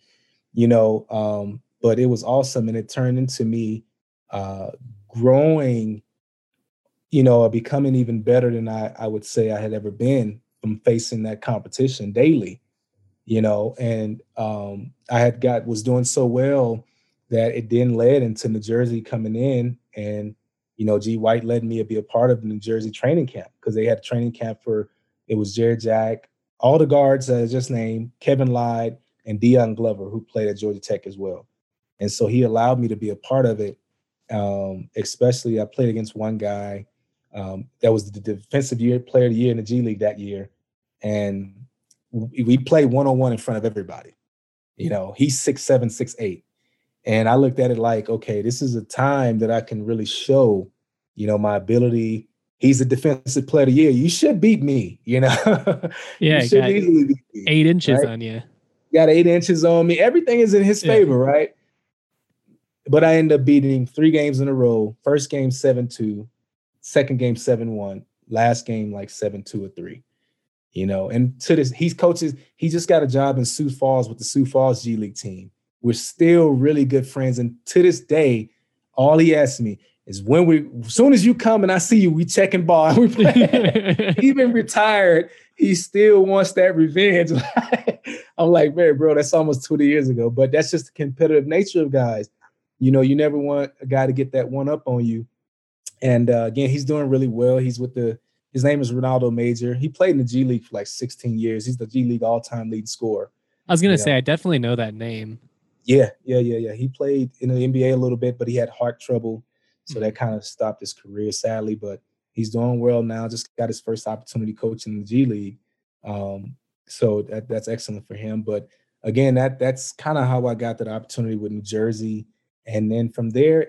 but it was awesome. And it turned into me growing, becoming even better than I would say I had ever been from facing that competition daily, and was doing so well that it then led into New Jersey coming in, and, G White led me to be a part of the New Jersey training camp, because they had a training camp it was Jared Jack, all the guards I just named, Kevin Lyde, and Deion Glover, who played at Georgia Tech as well. And so he allowed me to be a part of it. Especially I played against one guy that was the defensive player of the year in the G League that year. And we played one-on-one in front of everybody. He's 6'7", 6'8". And I looked at it like, okay, this is a time that I can really show, my ability. He's a defensive player of the year. You should beat me, Yeah, you should easily beat me, 8 inches right? on you. Got 8 inches on me. Everything is in his favor, right? But I ended up beating 3 games in a row. First game 7-2, second game 7-1, last game like 7-2 or 3. And to this, he just got a job in Sioux Falls with the Sioux Falls G League team. We're still really good friends. And to this day, all he asks me is as soon as you come and I see you, we checking ball and we play. Even retired, he still wants that revenge. I'm like, man, bro, that's almost 20 years ago. But that's just the competitive nature of guys. You never want a guy to get that one up on you. And again, he's doing really well. His name is Ronaldo Major. He played in the G League for like 16 years. He's the G League all-time leading scorer. I was going to say, I definitely know that name. Yeah. He played in the NBA a little bit, but he had heart trouble. So that kind of stopped his career, sadly. But he's doing well now. Just got his first opportunity coaching in the G League. So that's excellent for him. But again, that's kind of how I got that opportunity with New Jersey. And then from there,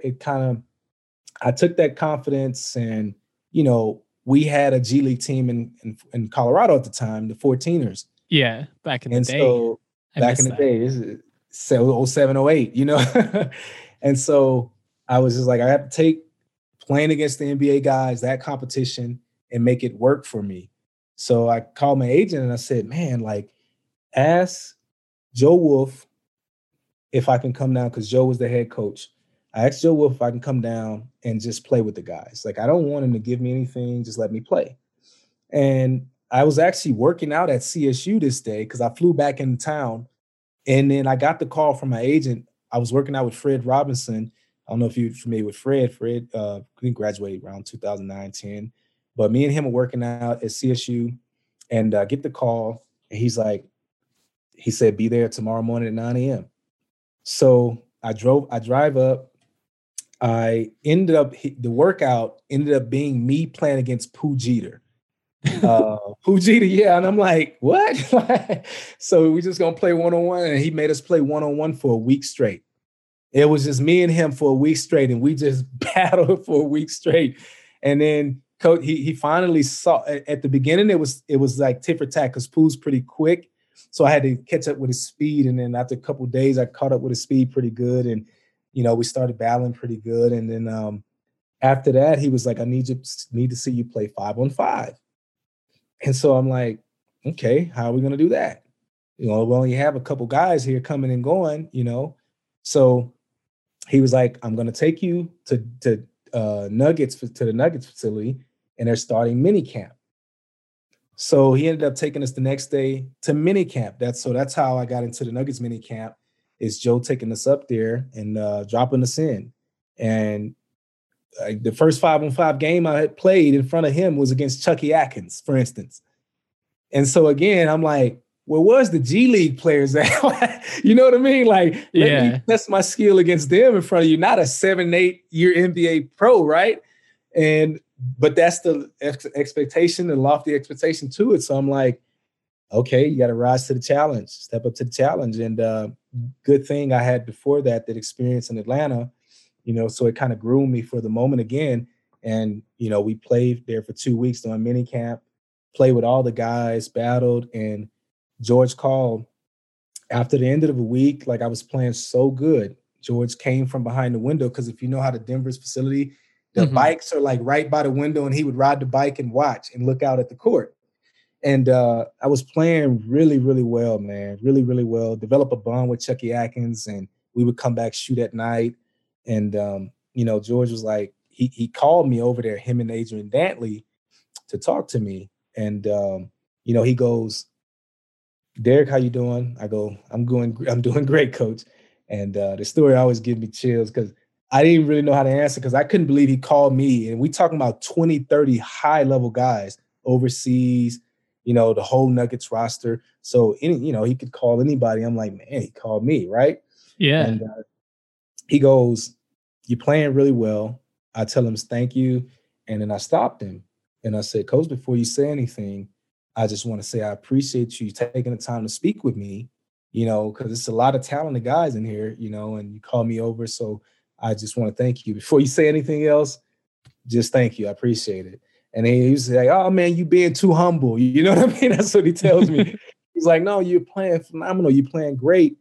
I took that confidence, and, we had a G League team in Colorado at the time, the 14ers. Yeah, back in the day. So back in the day, this is 07, 08, And so I was just like, I have to take playing against the NBA guys, that competition, and make it work for me. So I called my agent and I said, man, like, ask Joe Wolf if I can come down, because Joe was the head coach. I asked Joe Wolf if I can come down and just play with the guys. Like, I don't want him to give me anything, just let me play. And I was actually working out at CSU this day because I flew back into town. And then I got the call from my agent. I was working out with Fred Robinson. I don't know if you're familiar with Fred. Fred, he graduated around 2009, 10. But me and him were working out at CSU, and get the call. And he's like, He said, be there tomorrow morning at 9 a.m. So I drive up. The workout ended up being me playing against Pooh Jeter. Pooh Jeter, yeah. And I'm like, what? So we just gonna play one-on-one. And he made us play one-on-one for a week straight. It was just me and him for a week straight. And we just battled for a week straight. And then coach, he finally saw at the beginning, it was like tit for tat because Pooh's pretty quick. So I had to catch up with his speed. And then after a couple of days, I caught up with his speed pretty good. And, we started battling pretty good. And then after that, he was like, I need to see you play 5-on-5. And so I'm like, okay, how are we going to do that? We only have a couple guys here coming and going, So he was like, I'm going to take you to the Nuggets facility, and they're starting mini camp. So he ended up taking us the next day to mini camp. That's how I got into the Nuggets mini camp, is Joe taking us up there and dropping us in. And the first 5-on-5 game I had played in front of him was against Chucky Atkins, for instance. And so again, I'm like, where was the G League players at? You know what I mean? Like, let me test my skill against them in front of you, not a 7-8 year NBA pro, right? But that's the expectation, the lofty expectation to it. So I'm like, okay, you got to rise to the challenge, step up to the challenge. And good thing I had before that experience in Atlanta, so it kind of groomed me for the moment again. And, we played there for 2 weeks doing mini camp, played with all the guys, battled. And George called after the end of the week, like I was playing so good. George came from behind the window because if you know how the Denver's facility, the bikes are like right by the window, and he would ride the bike and watch and look out at the court. And I was playing really, really well, man, really, really well. Develop a bond with Chucky Atkins, and we would come back, shoot at night. And, George was like, he called me over there, him and Adrian Dantley, to talk to me. And, he goes, Derek, how you doing? I go, I'm doing great, coach. And the story always gives me chills because I didn't really know how to answer because I couldn't believe he called me. And we talking about 20, 30 high-level guys overseas, the whole Nuggets roster. So, he could call anybody. I'm like, man, he called me, right? Yeah. And he goes, you're playing really well. I tell him thank you. And then I stopped him. And I said, Coach, before you say anything, I just want to say I appreciate you taking the time to speak with me, because it's a lot of talented guys in here, and you called me over. So I just want to thank you. Before you say anything else, just thank you. I appreciate it. And he was like, oh, man, you being too humble. You know what I mean? That's what he tells me. He's like, no, you're playing phenomenal. You're playing great.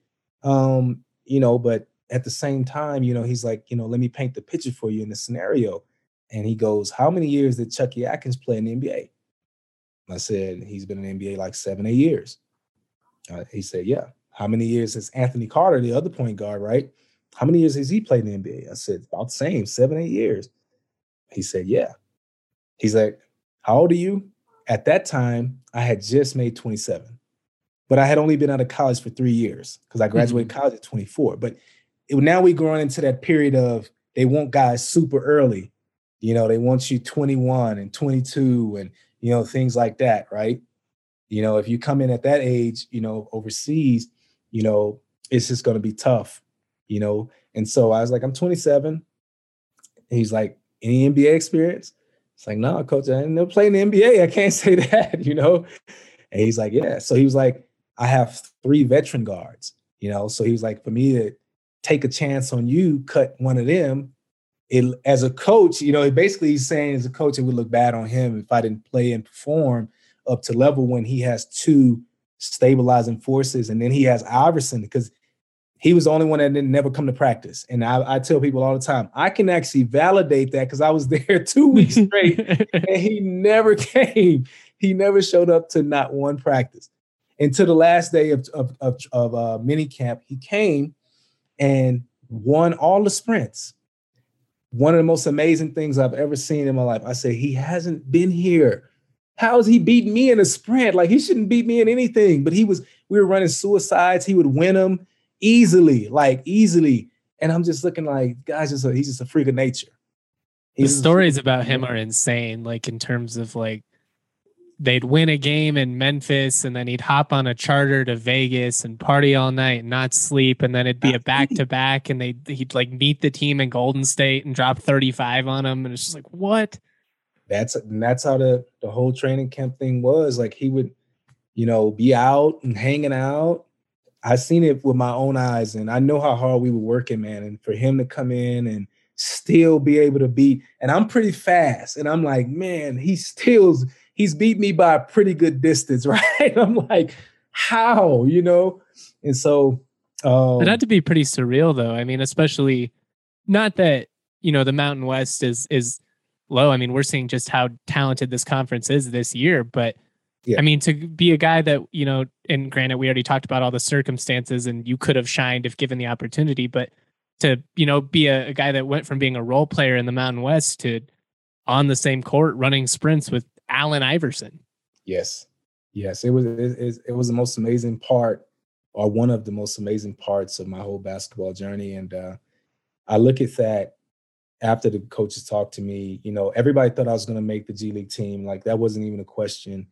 But at the same time, he's like, let me paint the picture for you in the scenario. And he goes, how many years did Chucky Atkins play in the NBA? I said, he's been in the NBA like 7, 8 years. He said, yeah. How many years has Anthony Carter, the other point guard, right? How many years has he played in the NBA? I said, about the same, 7, 8 years. He said, yeah. He's like, how old are you? At that time, I had just made 27. But I had only been out of college for 3 years because I graduated college at 24. But now we're going into that period of they want guys super early. They want you 21 and 22 and, things like that, right? If you come in at that age, overseas, it's just going to be tough, And so I was like, I'm 27. And he's like, any NBA experience? It's like, no, coach, I never played in the NBA. I can't say that, And he's like, yeah. So he was like, I have 3 veteran guards, So he was like, for me to take a chance on you, cut one of them, as a coach, basically he's saying as a coach, it would look bad on him if I didn't play and perform up to level when he has 2 stabilizing forces. And then he has Iverson because he was the only one that didn't never come to practice. And I tell people all the time, I can actually validate that because I was there 2 weeks straight and he never came. He never showed up to not one practice. And to the last day of mini camp, he came and won all the sprints. One of the most amazing things I've ever seen in my life. I say, he hasn't been here. How is he beating me in a sprint? Like, he shouldn't beat me in anything. But we were running suicides. He would win them easily. And I'm just looking like, guys, he's just a freak of nature. The stories about him are insane, like in terms of like they'd win a game in Memphis, and then he'd hop on a charter to Vegas and party all night and not sleep, and then it'd be a back-to-back, and he'd like meet the team in Golden State and drop 35 on them, and it's just like, what? That's how the whole training camp thing was. Like, he would, be out and hanging out. I seen it with my own eyes, and I know how hard we were working, man. And for him to come in and still be able to beat, and I'm pretty fast, and I'm like, man, he's beat me by a pretty good distance, right? I'm like, how, And so it had to be pretty surreal, though. I mean, especially not that, the Mountain West is low. I mean, we're seeing just how talented this conference is this year, but yeah. I mean, to be a guy that, and granted, we already talked about all the circumstances and you could have shined if given the opportunity, but to, be a guy that went from being a role player in the Mountain West to on the same court running sprints with Allen Iverson. Yes. It was the most amazing part, or one of the most amazing parts of my whole basketball journey. And I look at that after the coaches talked to me, everybody thought I was going to make the G League team. Like, that wasn't even a question.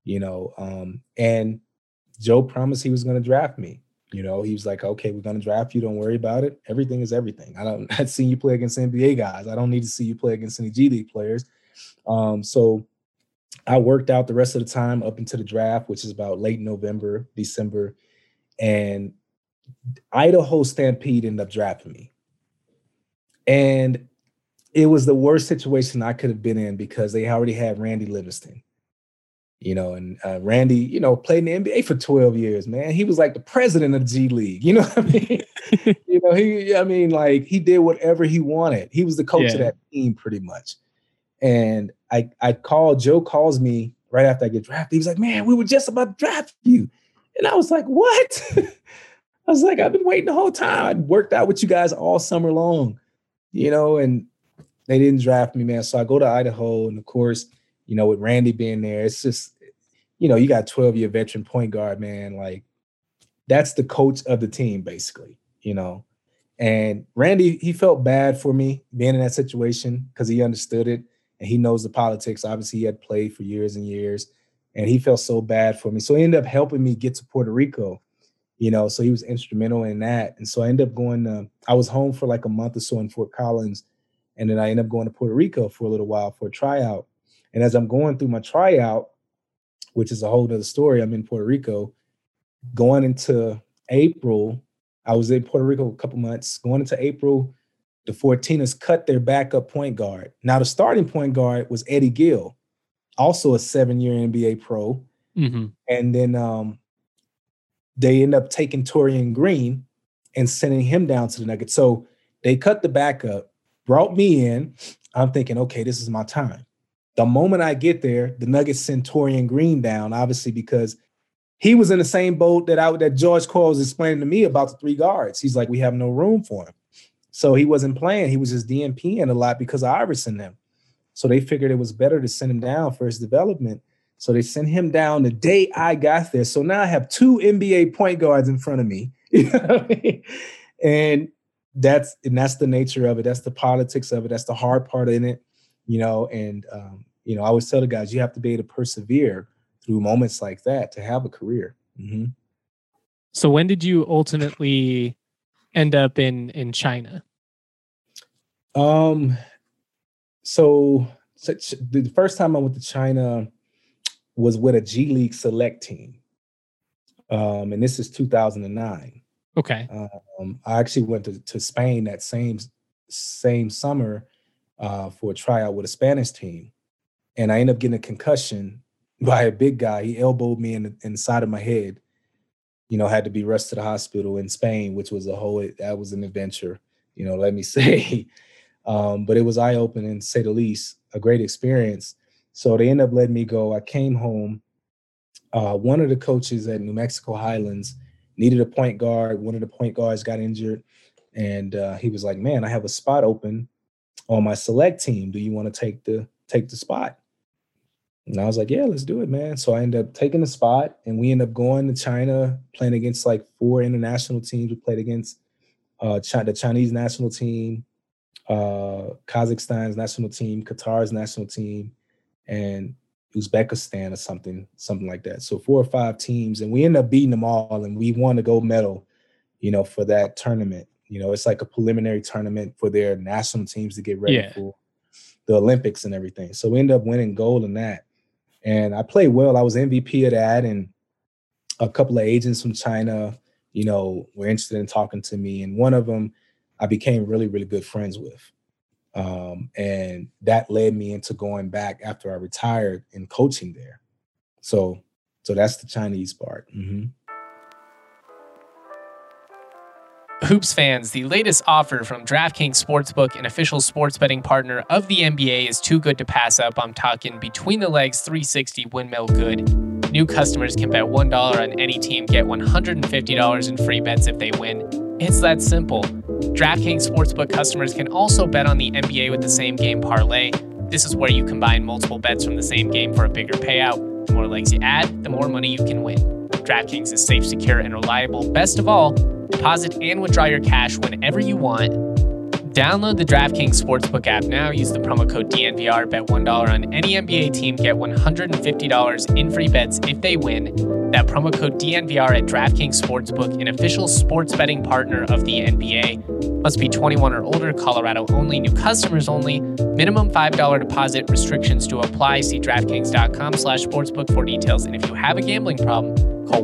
And Joe promised he was going to draft me. He was like, okay, we're going to draft you. Don't worry about it. Everything is everything. I've seen you play against NBA guys. I don't need to see you play against any G League players. So I worked out the rest of the time up into the draft, which is about late November, December. And Idaho Stampede ended up drafting me. And it was the worst situation I could have been in because they already had Randy Livingston. And Randy, played in the NBA for 12 years, man. He was like the president of the G League. You know what I mean? He did whatever he wanted. He was the coach of that team pretty much. And Joe calls me right after I get drafted. He was like, man, we were just about to draft you. And I was like, what? I was like, I've been waiting the whole time. I worked out with you guys all summer long, and they didn't draft me, man. So I go to Idaho, and of course, with Randy being there, it's just, you got a 12-year veteran point guard, man. Like, that's the coach of the team, basically, And Randy, he felt bad for me being in that situation because he understood it and he knows the politics. Obviously, he had played for years and years, and he felt so bad for me. So he ended up helping me get to Puerto Rico, so he was instrumental in that. And so I ended up I was home for like a month or so in Fort Collins, and then I ended up going to Puerto Rico for a little while for a tryout. And as I'm going through my tryout, which is a whole other story, I'm in Puerto Rico. Going into April, I was in Puerto Rico a couple months. Going into April, the 14ers cut their backup point guard. Now, the starting point guard was Eddie Gill, also a 7-year NBA pro. Mm-hmm. And then they end up taking Torian Green and sending him down to the Nuggets. So they cut the backup, brought me in. I'm thinking, okay, this is my time. The moment I get there, the Nuggets send Torian Green down, obviously, because he was in the same boat that George Coyle was explaining to me about the 3 guards. He's like, we have no room for him. So he wasn't playing. He was just DNPing a lot because of Iverson them. So they figured it was better to send him down for his development. So they sent him down the day I got there. So now I have 2 NBA point guards in front of me. You know what I mean? And that's the nature of it. That's the politics of it. That's the hard part in it. And I always tell the guys, you have to be able to persevere through moments like that to have a career. Mm-hmm. So when did you ultimately end up in China? So the first time I went to China was with a G League select team. And this is 2009. Okay. I actually went to Spain that same summer for a tryout with a Spanish team. And I ended up getting a concussion by a big guy. He elbowed me in the side of my head. Had to be rushed to the hospital in Spain, which was that was an adventure, let me say. But it was eye-opening, to say the least, a great experience. So they ended up letting me go. I came home. One of the coaches at New Mexico Highlands needed a point guard. One of the point guards got injured. And he was like, man, I have a spot open on my select team. Do you want to take the spot? And I was like, yeah, let's do it, man. So I ended up taking the spot, and we ended up going to China, playing against like 4 international teams. We played against the Chinese national team, Kazakhstan's national team, Qatar's national team. And Uzbekistan or something like that. So 4 or 5 teams, and we ended up beating them all, and we won the gold medal, for that tournament. It's like a preliminary tournament for their national teams to get ready for the Olympics and everything. So we ended up winning gold in that. And I played well. I was MVP of that, and a couple of agents from China, were interested in talking to me. And one of them I became really, really good friends with. And that led me into going back after I retired and coaching there. So that's the Chinese part. Mm-hmm. Hoops fans, the latest offer from DraftKings Sportsbook, an official sports betting partner of the NBA, is too good to pass up. I'm talking between the legs 360 windmill good. New customers can bet $1 on any team, get $150 in free bets if they win. It's that simple. DraftKings Sportsbook customers can also bet on the NBA with the same game parlay. This is where you combine multiple bets from the same game for a bigger payout. The more legs you add, the more money you can win. DraftKings is safe, secure, and reliable. Best of all, deposit and withdraw your cash whenever you want. Download the DraftKings Sportsbook app now. Use the promo code DNVR. Bet $1 on any NBA team. Get $150 in free bets if they win. That promo code DNVR at DraftKings Sportsbook, an official sports betting partner of the NBA. Must be 21 or older. Colorado only. New customers only. Minimum $5 deposit. Restrictions to apply. See DraftKings.com/sportsbook for details. And if you have a gambling problem, call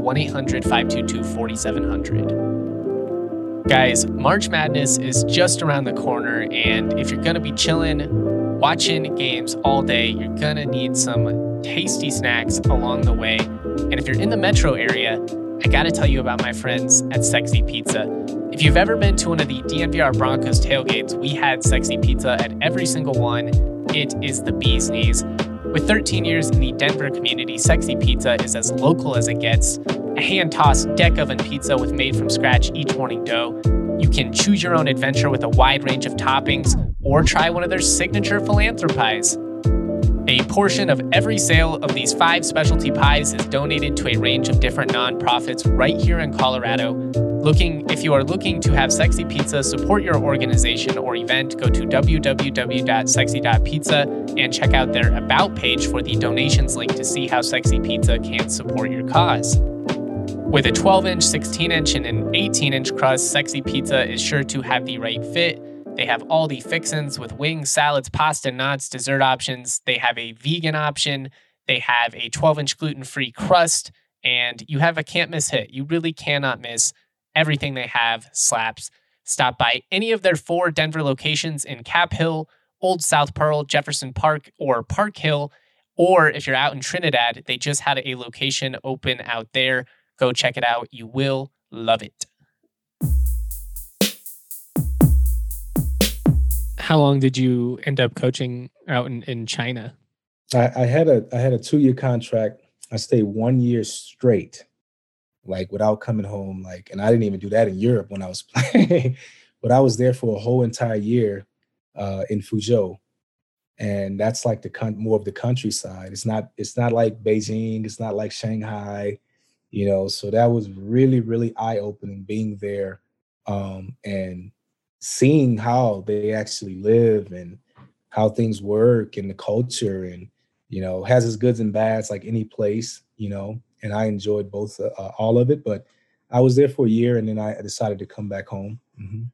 1-800-522-4700. Guys, March Madness is just around the corner, and if you're going to be chilling, watching games all day, you're going to need some tasty snacks along the way. And if you're in the metro area, I got to tell you about my friends at Sexy Pizza. If you've ever been to one of the DNVR Broncos tailgates, we had Sexy Pizza at every single one. It is the bee's knees. With 13 years in the Denver community, Sexy Pizza is as local as it gets. A hand-tossed deck oven pizza with made-from-scratch each morning dough. You can choose your own adventure with a wide range of toppings, or try one of their signature philanthropies. A portion of every sale of these 5 specialty pies is donated to a range of different nonprofits right here in Colorado. If you are looking to have Sexy Pizza support your organization or event, go to www.sexy.pizza and check out their About page for the donations link to see how Sexy Pizza can support your cause. With a 12-inch, 16-inch, and an 18-inch crust, Sexy Pizza is sure to have the right fit. They have all the fixins with wings, salads, pasta, nuts, dessert options. They have a vegan option. They have a 12-inch gluten-free crust, and you have a can't-miss hit. You really cannot miss. Everything they have slaps. Stop by any of their 4 Denver locations in Cap Hill, Old South Pearl, Jefferson Park, or Park Hill. Or if you're out in Trinidad, they just had a location open out there. Go check it out. You will love it. How long did you end up coaching out in China? I had a 2-year contract. I stayed 1 year straight, without coming home. And I didn't even do that in Europe when I was playing, but I was there for a whole entire year in Fuzhou. And that's more of the countryside. It's not like Beijing. It's not like Shanghai. So that was really, really eye-opening being there and seeing how they actually live and how things work and the culture, and, has its goods and bads like any place, and I enjoyed both, all of it. But I was there for a year, and then I decided to come back home. Mm-hmm.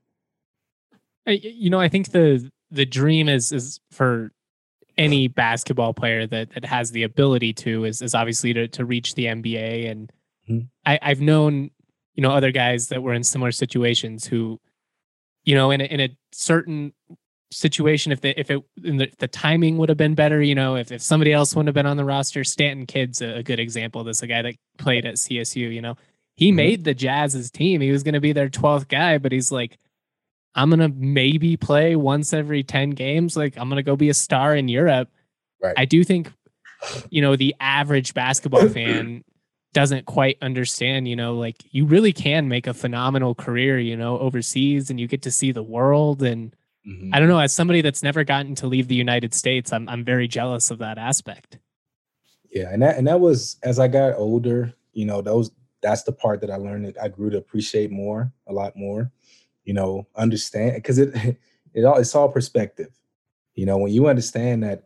I think the dream is for any basketball player that has the ability to is obviously to reach the NBA. And I've known, other guys that were in similar situations who, in a certain situation, if the timing would have been better, if somebody else wouldn't have been on the roster. Stanton Kidd's a good example. This a guy that played at CSU. He made the Jazz's team. He was going to be their 12th guy, but he's like, I'm going to maybe play once every 10 games. I'm going to go be a star in Europe. Right. I do think, the average basketball fan doesn't quite understand, you really can make a phenomenal career, overseas, and you get to see the world. And I don't know, as somebody that's never gotten to leave the United States, I'm very jealous of that aspect. Yeah. And that was, as I got older, that's the part that I learned that I grew to appreciate a lot more, understand, because it's all perspective. When you understand that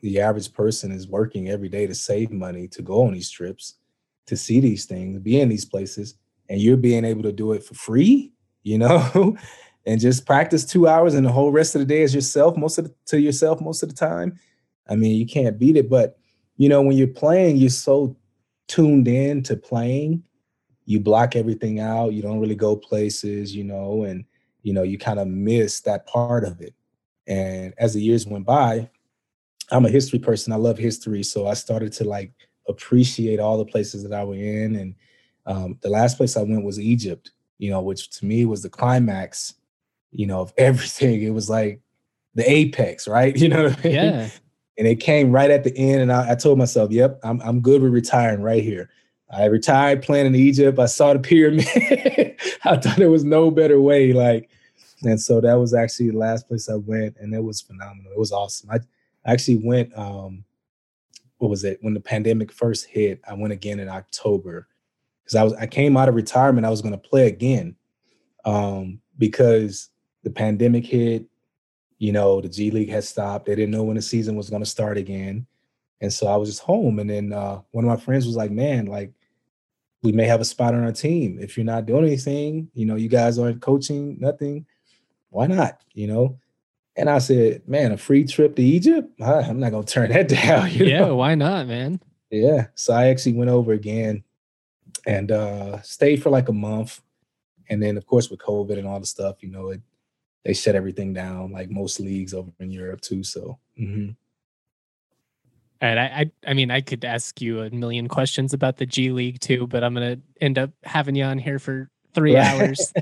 the average person is working every day to save money, to go on these trips, to see these things, be in these places, and you're being able to do it for free, and just practice 2 hours and the whole rest of the day is yourself to yourself most of the time. I mean, you can't beat it. But, when you're playing, you're so tuned in to playing. You block everything out. You don't really go places, and, you kind of miss that part of it. And as the years went by, I'm a history person. I love history. So I started to like appreciate all the places that I was in. And the last place I went was Egypt, which to me was the climax, of everything. It was like the apex, right? You know what I mean? Yeah. And it came right at the end. And I told myself, yep, I'm good with retiring right here. I retired playing in Egypt. I saw the pyramid. I thought there was no better way. And so that was actually the last place I went, and it was phenomenal. It was awesome. I actually went, what was it? When the pandemic first hit, I went again in October because I came out of retirement. I was going to play again because the pandemic hit. The G League had stopped. They didn't know when the season was going to start again. And so I was just home. And then one of my friends was like, man, like, we may have a spot on our team. If you're not doing anything, you guys aren't coaching, nothing, why not? And I said, man, a free trip to Egypt? I'm not going to turn that down. Yeah, why not, man? Yeah. So I actually went over again and stayed for like a month. And then, of course, with COVID and all the stuff, they shut everything down, like most leagues over in Europe too. So, And I mean, I could ask you a million questions about the G League too, but I'm going to end up having you on here for 3 hours.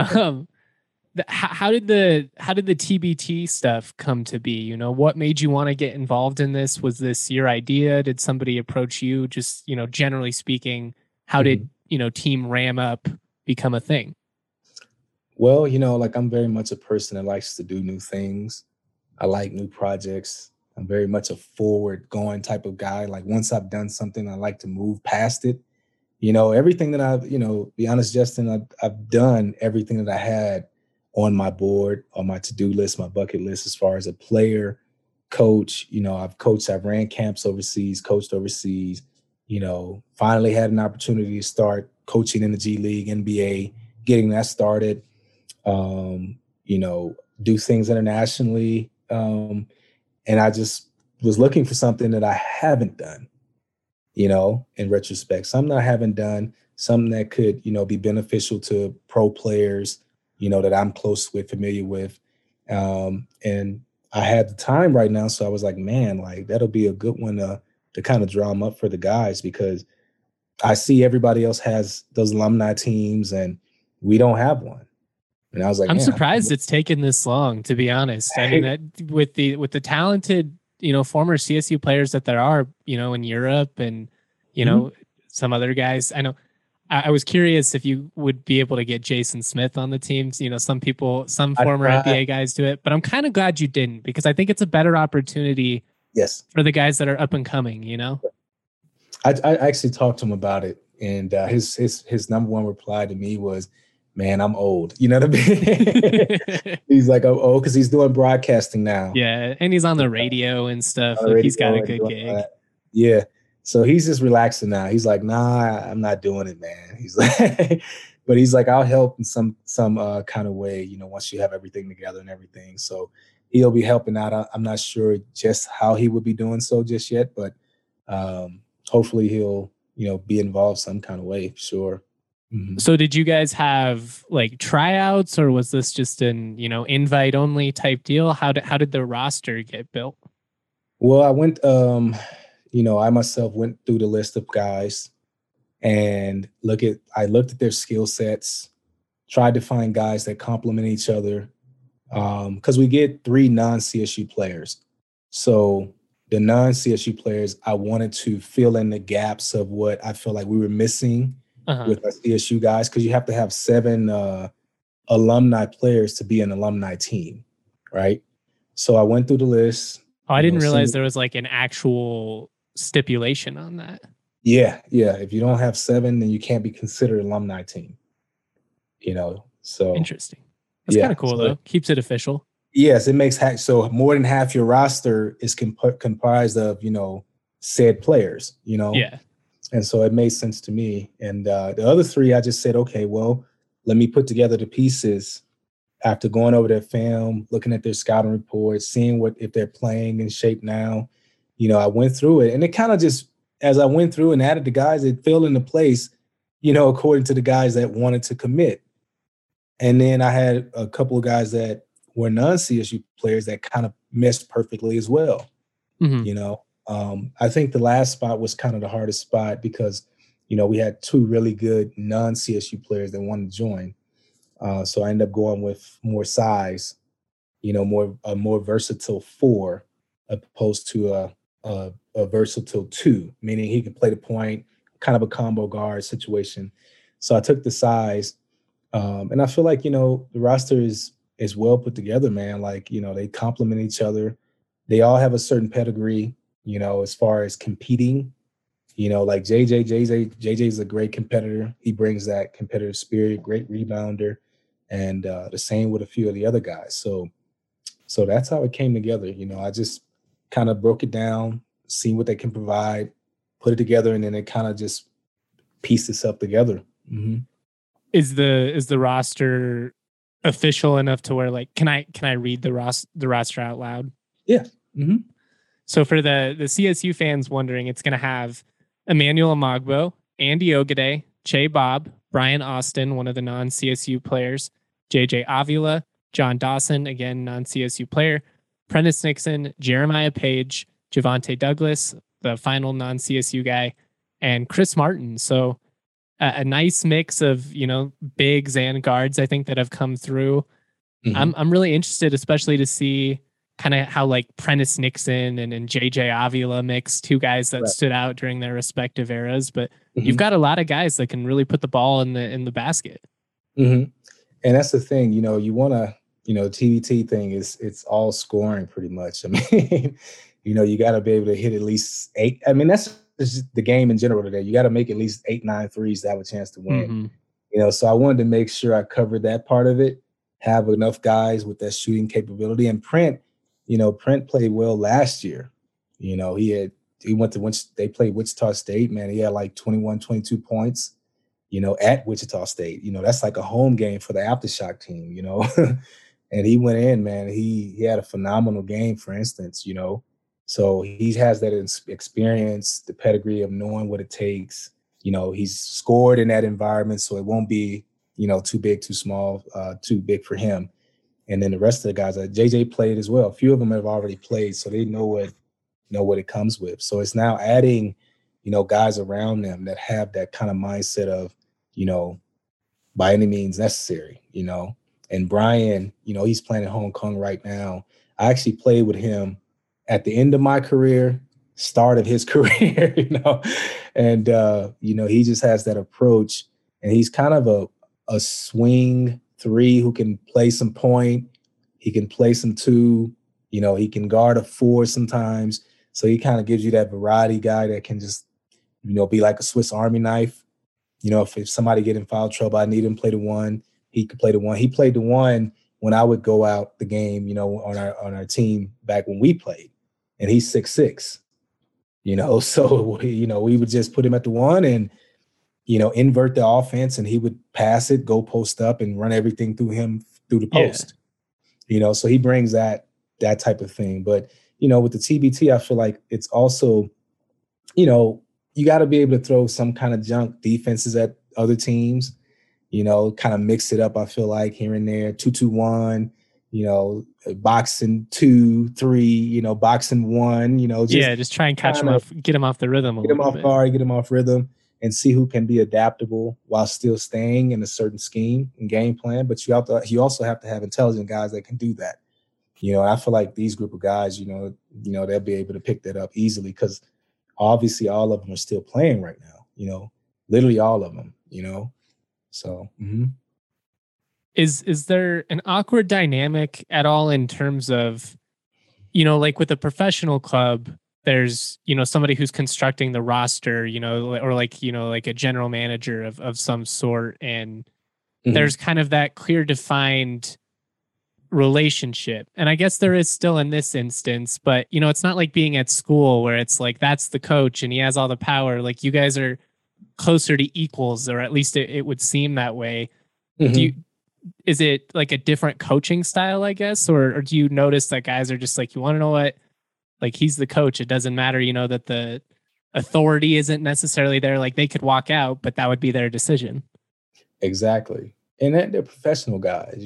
How did the TBT stuff come to be? What made you want to get involved in this? Was this your idea? Did somebody approach you? Just, generally speaking, how did, Team Ram Up become a thing? Well, like I'm very much a person that likes to do new things. I like new projects. I'm very much a forward going type of guy. Like once I've done something, I like to move past it. Everything that I've, be honest, Justin, I've done everything that I had on my board, on my to-do list, my bucket list, as far as a player, coach. I've ran camps overseas, coached overseas, finally had an opportunity to start coaching in the G League, NBA, getting that started, do things internationally. And I just was looking for something that I haven't done, in retrospect, something I haven't done, something that could, be beneficial to pro players, that I'm close with, familiar with. And I had the time right now. So I was like, man, like that'll be a good one to kind of draw them up for the guys, because I see everybody else has those alumni teams and we don't have one. And I was like, I'm surprised it's taken this long, to be honest. I mean, with the talented, former CSU players that there are, in Europe and, some other guys. I know I was curious if you would be able to get Jason Smith on the teams. Some former NBA guys do it, but I'm kind of glad you didn't, because I think it's a better opportunity. Yes. For the guys that are up and coming, I actually talked to him about it, and his number one reply to me was, man, I'm old. You know what I mean? He's like, I'm old because he's doing broadcasting now. Yeah, and he's on the radio and stuff. Like, he's got a good gig. Yeah. So he's just relaxing now. He's like, nah, I'm not doing it, man. He's like, but he's like, I'll help in some kind of way, once you have everything together and everything. So he'll be helping out. I'm not sure just how he would be doing so just yet, but hopefully he'll, be involved some kind of way, for sure. Mm-hmm. So did you guys have like tryouts, or was this just an, invite only type deal? How did the roster get built? Well, I went, I myself went through the list of guys and I looked at their skill sets, tried to find guys that complement each other. Because we get 3 non-CSU players. So the non-CSU players, I wanted to fill in the gaps of what I feel like we were missing with our CSU guys, because you have to have 7 alumni players to be an alumni team, right? So I went through the list. Oh, I didn't realize there was like an actual stipulation on that. Yeah. If you don't have 7, then you can't be considered alumni team. So interesting. That's kind of cool, though. Keeps it official. Yes, it makes so more than half your roster is comprised of, said players, Yeah. And so it made sense to me. And the other three, I just said, okay, well, let me put together the pieces after going over their film, looking at their scouting reports, seeing if they're playing in shape now. I went through it, and it kind of just, as I went through and added the guys, it fell into place, according to the guys that wanted to commit. And then I had a couple of guys that were non-CSU players that kind of meshed perfectly as well. I think the last spot was kind of the hardest spot because, we had two really good non-CSU players that wanted to join. So I ended up going with more size, a more versatile 4 opposed to a versatile 2, meaning he could play the point, kind of a combo guard situation. So I took the size, and I feel like, the roster is well put together, man. Like, they complement each other. They all have a certain pedigree, as far as competing. Like JJ is a great competitor. He brings that competitive spirit, great rebounder, and the same with a few of the other guys. So that's how it came together. I just kind of broke it down, see what they can provide, put it together, and then it kind of just pieced itself together. Mm-hmm. Is the roster official enough to where, like, can I read the roster out loud? Yeah. Mm-hmm. So for the CSU fans wondering, it's going to have Emmanuel Amagbo, Andy Ogade, Che Bob, Brian Austin, one of the non-CSU players, JJ Avila, John Dawson, again, non-CSU player, Prentice Nixon, Jeremiah Page, Javante Douglas, the final non-CSU guy, and Chris Martin. So a nice mix of, bigs and guards, I think, that have come through. Mm-hmm. I'm really interested, especially to see kind of how, like, Prentice Nixon and JJ Avila mix, two guys that stood out during their respective eras. But you've got a lot of guys that can really put the ball in the basket. Mm-hmm. And that's the thing, you want to, TBT thing it's all scoring pretty much. I mean, you got to be able to hit at least 8. I mean, that's just the game in general today. You got to make at least 8, 9 threes to have a chance to win. Mm-hmm. So I wanted to make sure I covered that part of it, have enough guys with that shooting capability. And Prent played well last year. He went to they played Wichita State, man. He had like 21, 22 points, at Wichita State. That's like a home game for the Aftershock team, and he went in, man. He had a phenomenal game, for instance, So he has that experience, the pedigree of knowing what it takes. He's scored in that environment, so it won't be, too big, too small, too big for him. And then the rest of the guys, JJ played as well. A few of them have already played, so they know what it comes with. So it's now adding, guys around them that have that kind of mindset of, by any means necessary, And Brian, he's playing at Hong Kong right now. I actually played with him at the end of my career, start of his career, and he just has that approach, and he's kind of a swing 3 who can play some point. He can play some 2, he can guard a 4 sometimes. So he kind of gives you that variety guy that can just, be like a Swiss Army knife. If somebody get in foul trouble, I need him to play the 1. He could play the 1. He played the 1 when I would go out the game, on our team back when we played. And he's 6'6", so, we would just put him at the 1 and, invert the offense, and he would pass it, go post up, and run everything through him through the post. Yeah. So he brings that type of thing. But, with the TBT, I feel like it's also, you got to be able to throw some kind of junk defenses at other teams, kind of mix it up, I feel like, here and there, 2-2-1, boxing 2, 3, boxing 1, just try and catch them off, get them off the rhythm. Get them off guard, get them off rhythm, and see who can be adaptable while still staying in a certain scheme and game plan. But you also have to have intelligent guys that can do that. I feel like these group of guys, they'll be able to pick that up easily because obviously all of them are still playing right now, literally all of them, So, mm-hmm. Is there an awkward dynamic at all in terms of, like with a professional club, there's, somebody who's constructing the roster, or like, like a general manager of some sort. And there's kind of that clear defined relationship. And I guess there is still in this instance, but it's not like being at school where it's like that's the coach and he has all the power. Like you guys are closer to equals, or at least it would seem that way. Mm-hmm. Is it like a different coaching style, I guess, or do you notice that guys are just like, you want to know what, like he's the coach, it doesn't matter, that the authority isn't necessarily there, like they could walk out, but that would be their decision. Exactly. And that they're professional guys,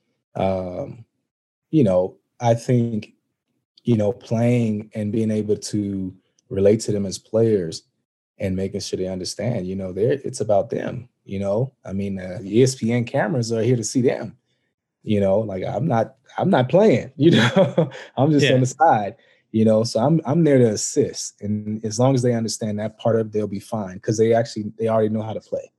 I think, playing and being able to relate to them as players and making sure they understand, it's about them, I mean, the ESPN cameras are here to see them, like I'm not playing, I'm just on the side, so I'm there to assist. And as long as they understand that part of it, they'll be fine because they already know how to play,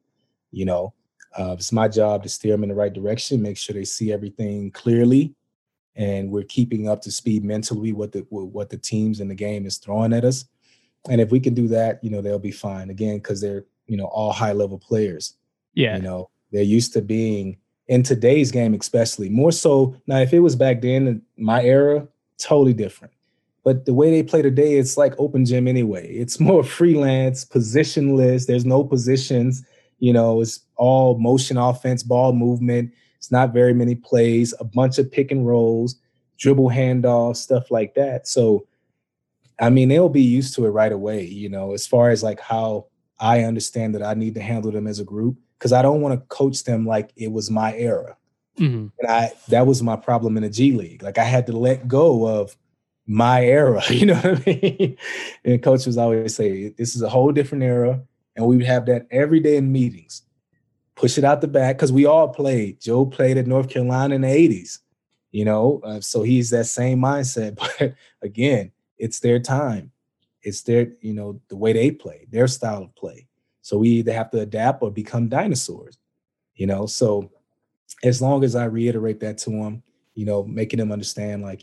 it's my job to steer them in the right direction, make sure they see everything clearly, and we're keeping up to speed mentally what the teams in the game is throwing at us. And if we can do that, they'll be fine. Again, because they're all high level players. Yeah, they're used to being in today's game, especially more so. Now, if it was back then in my era, totally different. But the way they play today, it's like open gym anyway. It's more freelance, positionless. There's no positions. It's all motion offense, ball movement. It's not very many plays, a bunch of pick and rolls, dribble handoffs, stuff like that. So, I mean, they'll be used to it right away, as far as like how I understand that I need to handle them as a group, because I don't want to coach them like it was my era. Mm-hmm. And that was my problem in the G League. Like I had to let go of my era, you know what I mean? And coaches always say, this is a whole different era. And we would have that every day in meetings. Push it out the back, because we all played. Joe played at North Carolina in the 80s, so he's that same mindset. But again, it's their time. It's their, the way they play, their style of play. So we either have to adapt or become dinosaurs, So as long as I reiterate that to them, making them understand, like,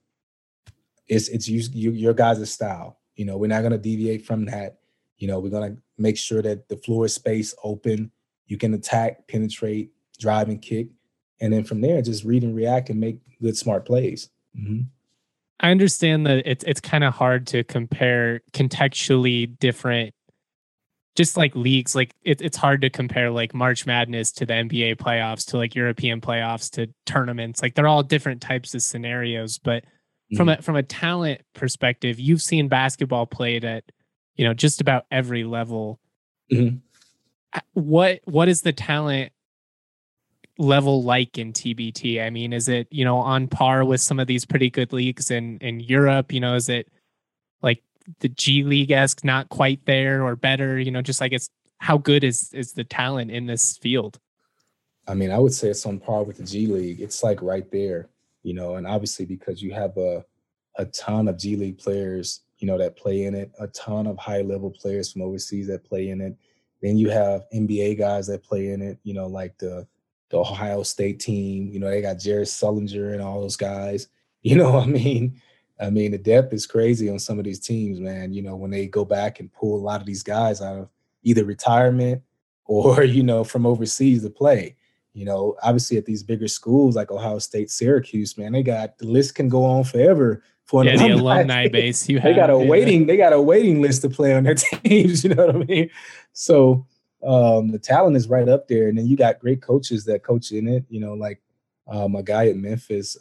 it's your guys' style. We're not going to deviate from that. We're going to make sure that the floor is space open. You can attack, penetrate, drive, and kick. And then from there, just read and react and make good, smart plays. Mm-hmm. I understand that it's kind of hard to compare contextually different, just like leagues. Like it's hard to compare like March Madness to the NBA playoffs to like European playoffs to tournaments. Like they're all different types of scenarios. But from a talent perspective, you've seen basketball played at just about every level. Mm-hmm. What is the talent level like in TBT? I mean, is it, on par with some of these pretty good leagues in Europe? Is it like the G League-esque, not quite there, or better? Just like how good is the talent in this field? I mean, I would say it's on par with the G League. It's like right there, and obviously because you have a ton of G League players, that play in it, a ton of high level players from overseas that play in it. Then you have NBA guys that play in it, like the Ohio State team, they got Jared Sullinger and all those guys. I mean, the depth is crazy on some of these teams, man. When they go back and pull a lot of these guys out of either retirement or, from overseas to play. Obviously at these bigger schools like Ohio State, Syracuse, man, the list can go on forever for an the alumni base. They got a waiting list to play on their teams. You know what I mean? So the talent is right up there. And then you got great coaches that coach in it, like my guy at Memphis,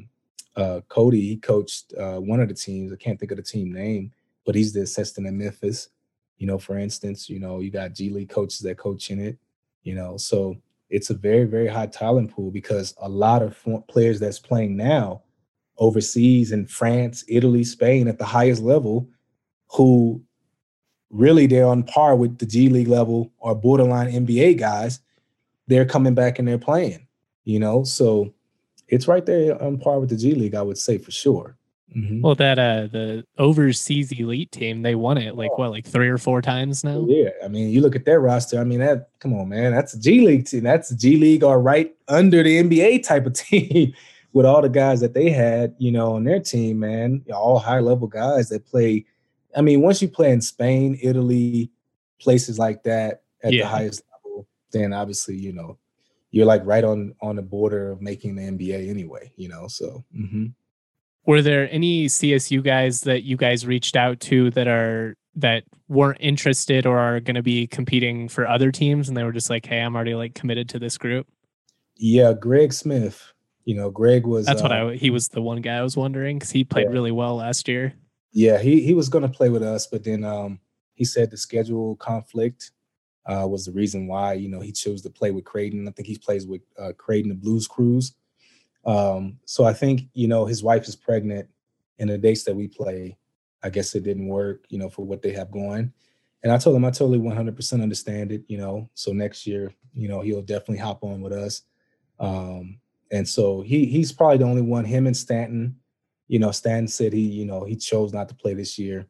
Cody, he coached one of the teams. I can't think of the team name, but he's the assistant at Memphis. For instance, you got G League coaches that coach in it, so it's a very, very high talent pool, because a lot of players that's playing now overseas in France, Italy, Spain at the highest level, who really they're on par with the G League level or borderline NBA guys, they're coming back and they're playing, so it's right there on par with the G League, I would say, for sure. Mm-hmm. Well, that the overseas elite team, they won it like 3 or 4 times now. Yeah, I mean, you look at their roster. I mean, come on, man, that's a G League team. That's a G League or right under the NBA type of team with all the guys that they had, on their team, man. All high level guys that play. I mean, once you play in Spain, Italy, places like that at the highest level, then obviously, you're like right on the border of making the NBA anyway, so. Were there any CSU guys that you guys reached out to that weren't interested or are going to be competing for other teams, and they were just like, hey, I'm already like committed to this group? Yeah, Greg Smith. Greg was. That's he was the one guy I was wondering, because he played really well last year. Yeah, he was going to play with us, but then he said the schedule conflict was the reason why, he chose to play with Creighton. I think he plays with Creighton, the Blues Crews. So I think, his wife is pregnant, and the dates that we play, I guess it didn't work, for what they have going. And I told him I totally 100% understand it, so next year, he'll definitely hop on with us. And so he's probably the only one, him and Stanton. Stanton said he chose not to play this year.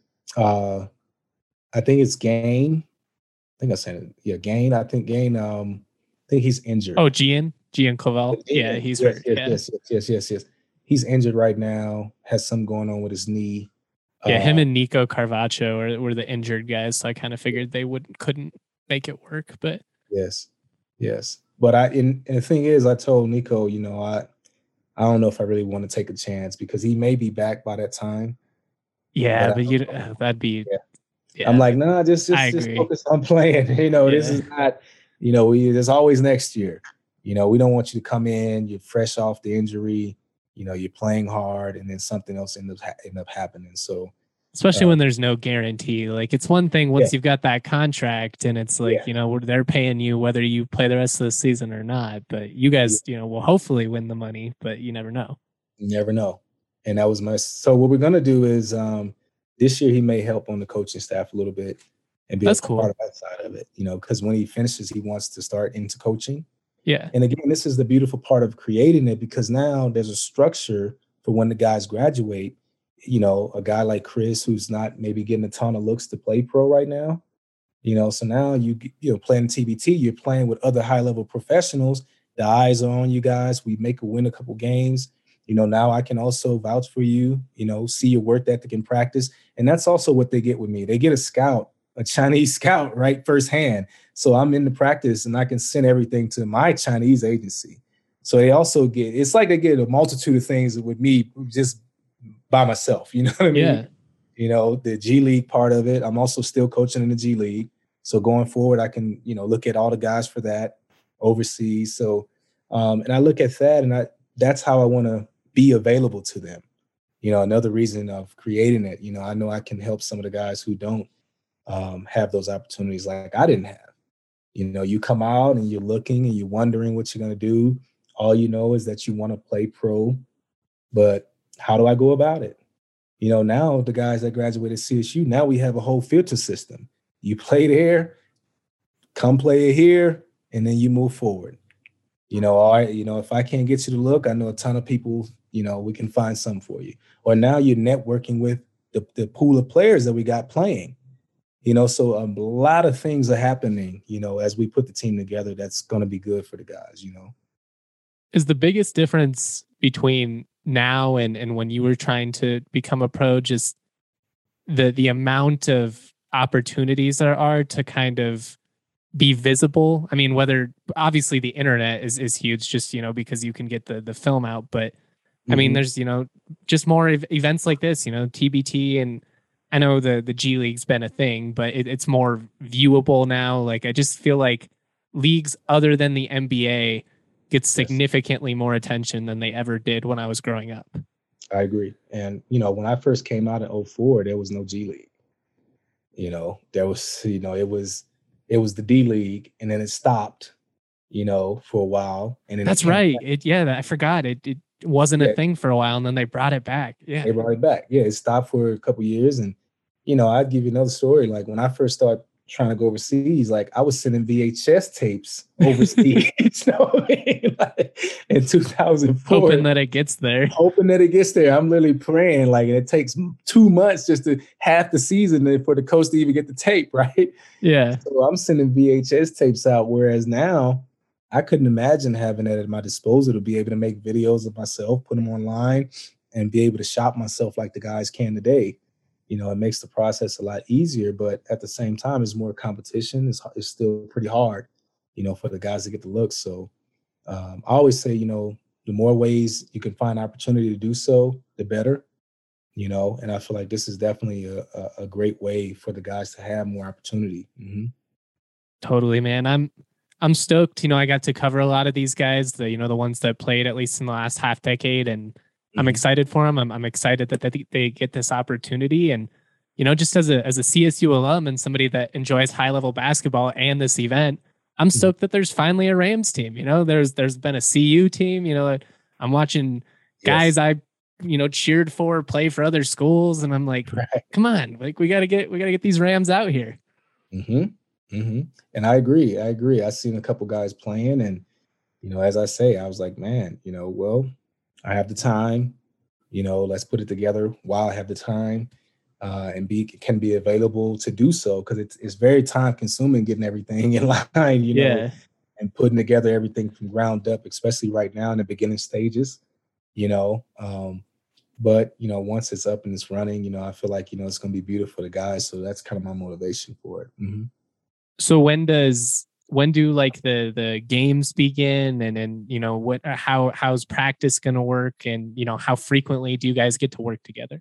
I think it's Gain. I think I said it. Yeah, Gain. I think Gain. I think he's injured. Oh, Gian Clavel. Yeah, he's hurt. Yes. He's injured right now. Has something going on with his knee. Yeah, him and Nico Carvacho were the injured guys, so I kind of figured they couldn't make it work. But yes. But and the thing is, I told Nico, I don't know if I really want to take a chance, because he may be back by that time. Yeah, but that'd be. Yeah. I'm like, nah, just focus on playing. This is not. There's always next year. We don't want you to come in, you're fresh off the injury. You're playing hard, and then something else end up happening. So, especially when there's no guarantee. Like, it's one thing once you've got that contract, and it's like, they're paying you whether you play the rest of the season or not. But you guys, will hopefully win the money, but you never know. You never know. And that was so what we're gonna do is this year he may help on the coaching staff a little bit and be part of that side of it. Because when he finishes, he wants to start into coaching. Yeah. And again, this is the beautiful part of creating it, because now there's a structure for when the guys graduate. A guy like Chris, who's not maybe getting a ton of looks to play pro right now. So now you playing TBT, you're playing with other high level professionals. The eyes are on you guys. We make a win a couple games. Now I can also vouch for you, see your work ethic in practice. And that's also what they get with me. They get a Chinese scout, right, firsthand. So I'm in the practice, and I can send everything to my Chinese agency. So they also it's like they get a multitude of things with me just by myself. You know what I mean? Yeah. The G League part of it. I'm also still coaching in the G League. So going forward, I can, look at all the guys for that overseas. So, and I look at that, and that's how I want to be available to them. Another reason of creating it, I know I can help some of the guys who don't have those opportunities like I didn't have. You come out and you're looking and you're wondering what you're going to do. All you know is that you want to play pro, but how do I go about it? Now the guys that graduated CSU, now we have a whole filter system. You play there, come play it here, and then you move forward. If I can't get you to look, I know a ton of people, we can find some for you. Or now you're networking with the pool of players that we got playing. So a lot of things are happening, as we put the team together, that's going to be good for the guys, Is the biggest difference between now and when you were trying to become a pro just the amount of opportunities there are to kind of be visible? I mean, whether obviously the internet is huge, just, because you can get the film out, but I mean, there's, just more events like this, TBT, and I know the G League's been a thing, but it's more viewable now. Like, I just feel like leagues other than the NBA get significantly more attention than they ever did when I was growing up. I agree. And, when I first came out in 2004, there was no G League. There was, it was the D League, and then it stopped, for a while. And then that's right. I forgot. It wasn't a thing for a while, and then they brought it back. Yeah. They brought it back. Yeah, it stopped for a couple of years. And, I'd give you another story. Like, when I first started trying to go overseas, like, I was sending VHS tapes overseas, in 2004. Hoping that it gets there. I'm literally praying, like, and it takes 2 months just to half the season for the coach to even get the tape, right? Yeah. So I'm sending VHS tapes out, whereas now I couldn't imagine having that at my disposal to be able to make videos of myself, put them online, and be able to shop myself like the guys can today. It makes the process a lot easier, but at the same time, it's more competition. It's still pretty hard, for the guys to get the looks. So I always say, the more ways you can find opportunity to do so, the better, and I feel like this is definitely a great way for the guys to have more opportunity. Mm-hmm. Totally, man. I'm stoked. I got to cover a lot of these guys, the ones that played at least in the last half decade, and I'm excited for them. I'm excited that they get this opportunity, and just as a CSU alum and somebody that enjoys high level basketball and this event, I'm stoked that there's finally a Rams team. There's been a CU team. I'm watching guys I cheered for play for other schools, and I'm like, come on, like we gotta get these Rams out here. Mm-hmm. Mm-hmm. And I agree. I've seen a couple guys playing, and as I say, I was like, man, well, I have the time. Let's put it together while I have the time, and can be available to do so, because it's very time consuming getting everything in line, and putting together everything from ground up, especially right now in the beginning stages. But once it's up and it's running, I feel like it's going to be beautiful for the guys. So that's kind of my motivation for it. Mm-hmm. So when do like the games begin, and how's practice going to work, and how frequently do you guys get to work together?